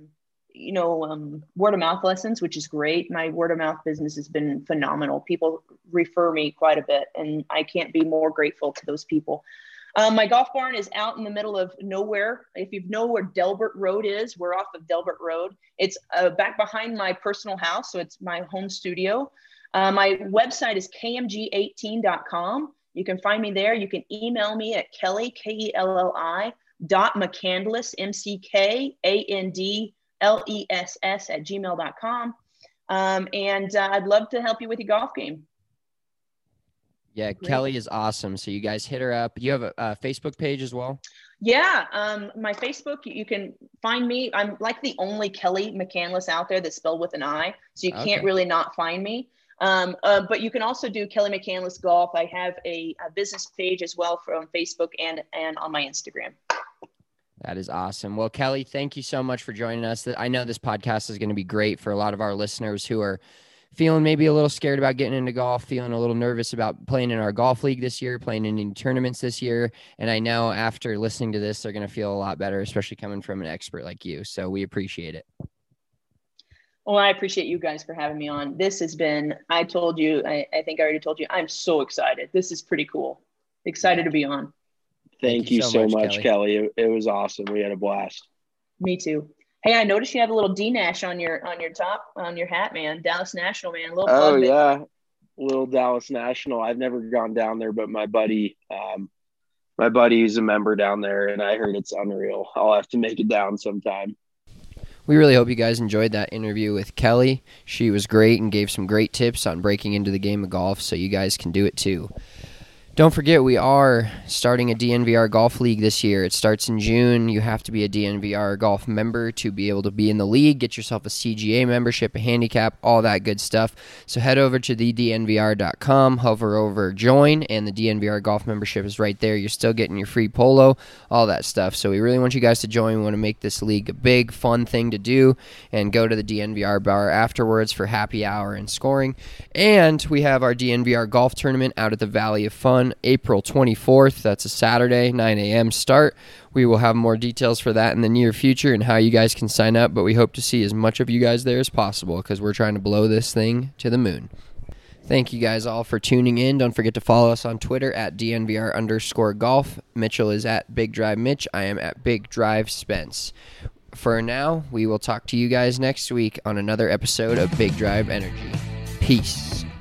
word of mouth lessons, which is great. My word of mouth business has been phenomenal. People refer me quite a bit, and I can't be more grateful to those people. My golf barn is out in the middle of nowhere. If you know where Delbert Road is, we're off of Delbert Road. It's back behind my personal house, so it's my home studio. My website is kmg18.com. You can find me there. You can email me at Kelly, KELLI, .McCandless, MCKANDLESS @gmail.com. And I'd love to help you with your golf game. Yeah, Great. Kelly is awesome. So you guys hit her up. You have a Facebook page as well? Yeah, my Facebook, you can find me. I'm like the only Kelly McCandless out there that's spelled with an I, so you can't really not find me. But you can also do Kelly McCandless Golf. I have a business page as well from Facebook and on my Instagram. That is awesome. Well, Kelly, thank you so much for joining us. I know this podcast is going to be great for a lot of our listeners who are feeling maybe a little scared about getting into golf, feeling a little nervous about playing in our golf league this year, playing in any tournaments this year. And I know after listening to this, they're going to feel a lot better, especially coming from an expert like you. So we appreciate it. Well, I appreciate you guys for having me on. This has been, I told you, I think I already told you, I'm so excited. This is pretty cool. Excited to be on. Thank you so much, Kelly. It was awesome. We had a blast. Me too. Hey, I noticed you have a little D-Nash on your top, on your hat, man. Dallas National, man. A little plug, yeah. Little Dallas National. I've never gone down there, but my buddy is a member down there, and I heard it's unreal. I'll have to make it down sometime. We really hope you guys enjoyed that interview with Kelly. She was great and gave some great tips on breaking into the game of golf, so you guys can do it too. Don't forget, we are starting a DNVR Golf League this year. It starts in June. You have to be a DNVR Golf member to be able to be in the league. Get yourself a CGA membership, a handicap, all that good stuff. So head over to thednvr.com, hover over join, and the DNVR Golf membership is right there. You're still getting your free polo, all that stuff. So we really want you guys to join. We want to make this league a big, fun thing to do, and go to the DNVR bar afterwards for happy hour and scoring. And we have our DNVR Golf Tournament out at the Valley of Fun, April 24th. That's a Saturday, 9 a.m. start. We will have more details for that in the near future and how you guys can sign up, but we hope to see as much of you guys there as possible because we're trying to blow this thing to the moon. Thank you guys all for tuning in. Don't forget to follow us on Twitter at DNVR_golf. Mitchell is at Big Drive Mitch. I am at Big Drive Spence. For now, we will talk to you guys next week on another episode of Big Drive Energy. Peace.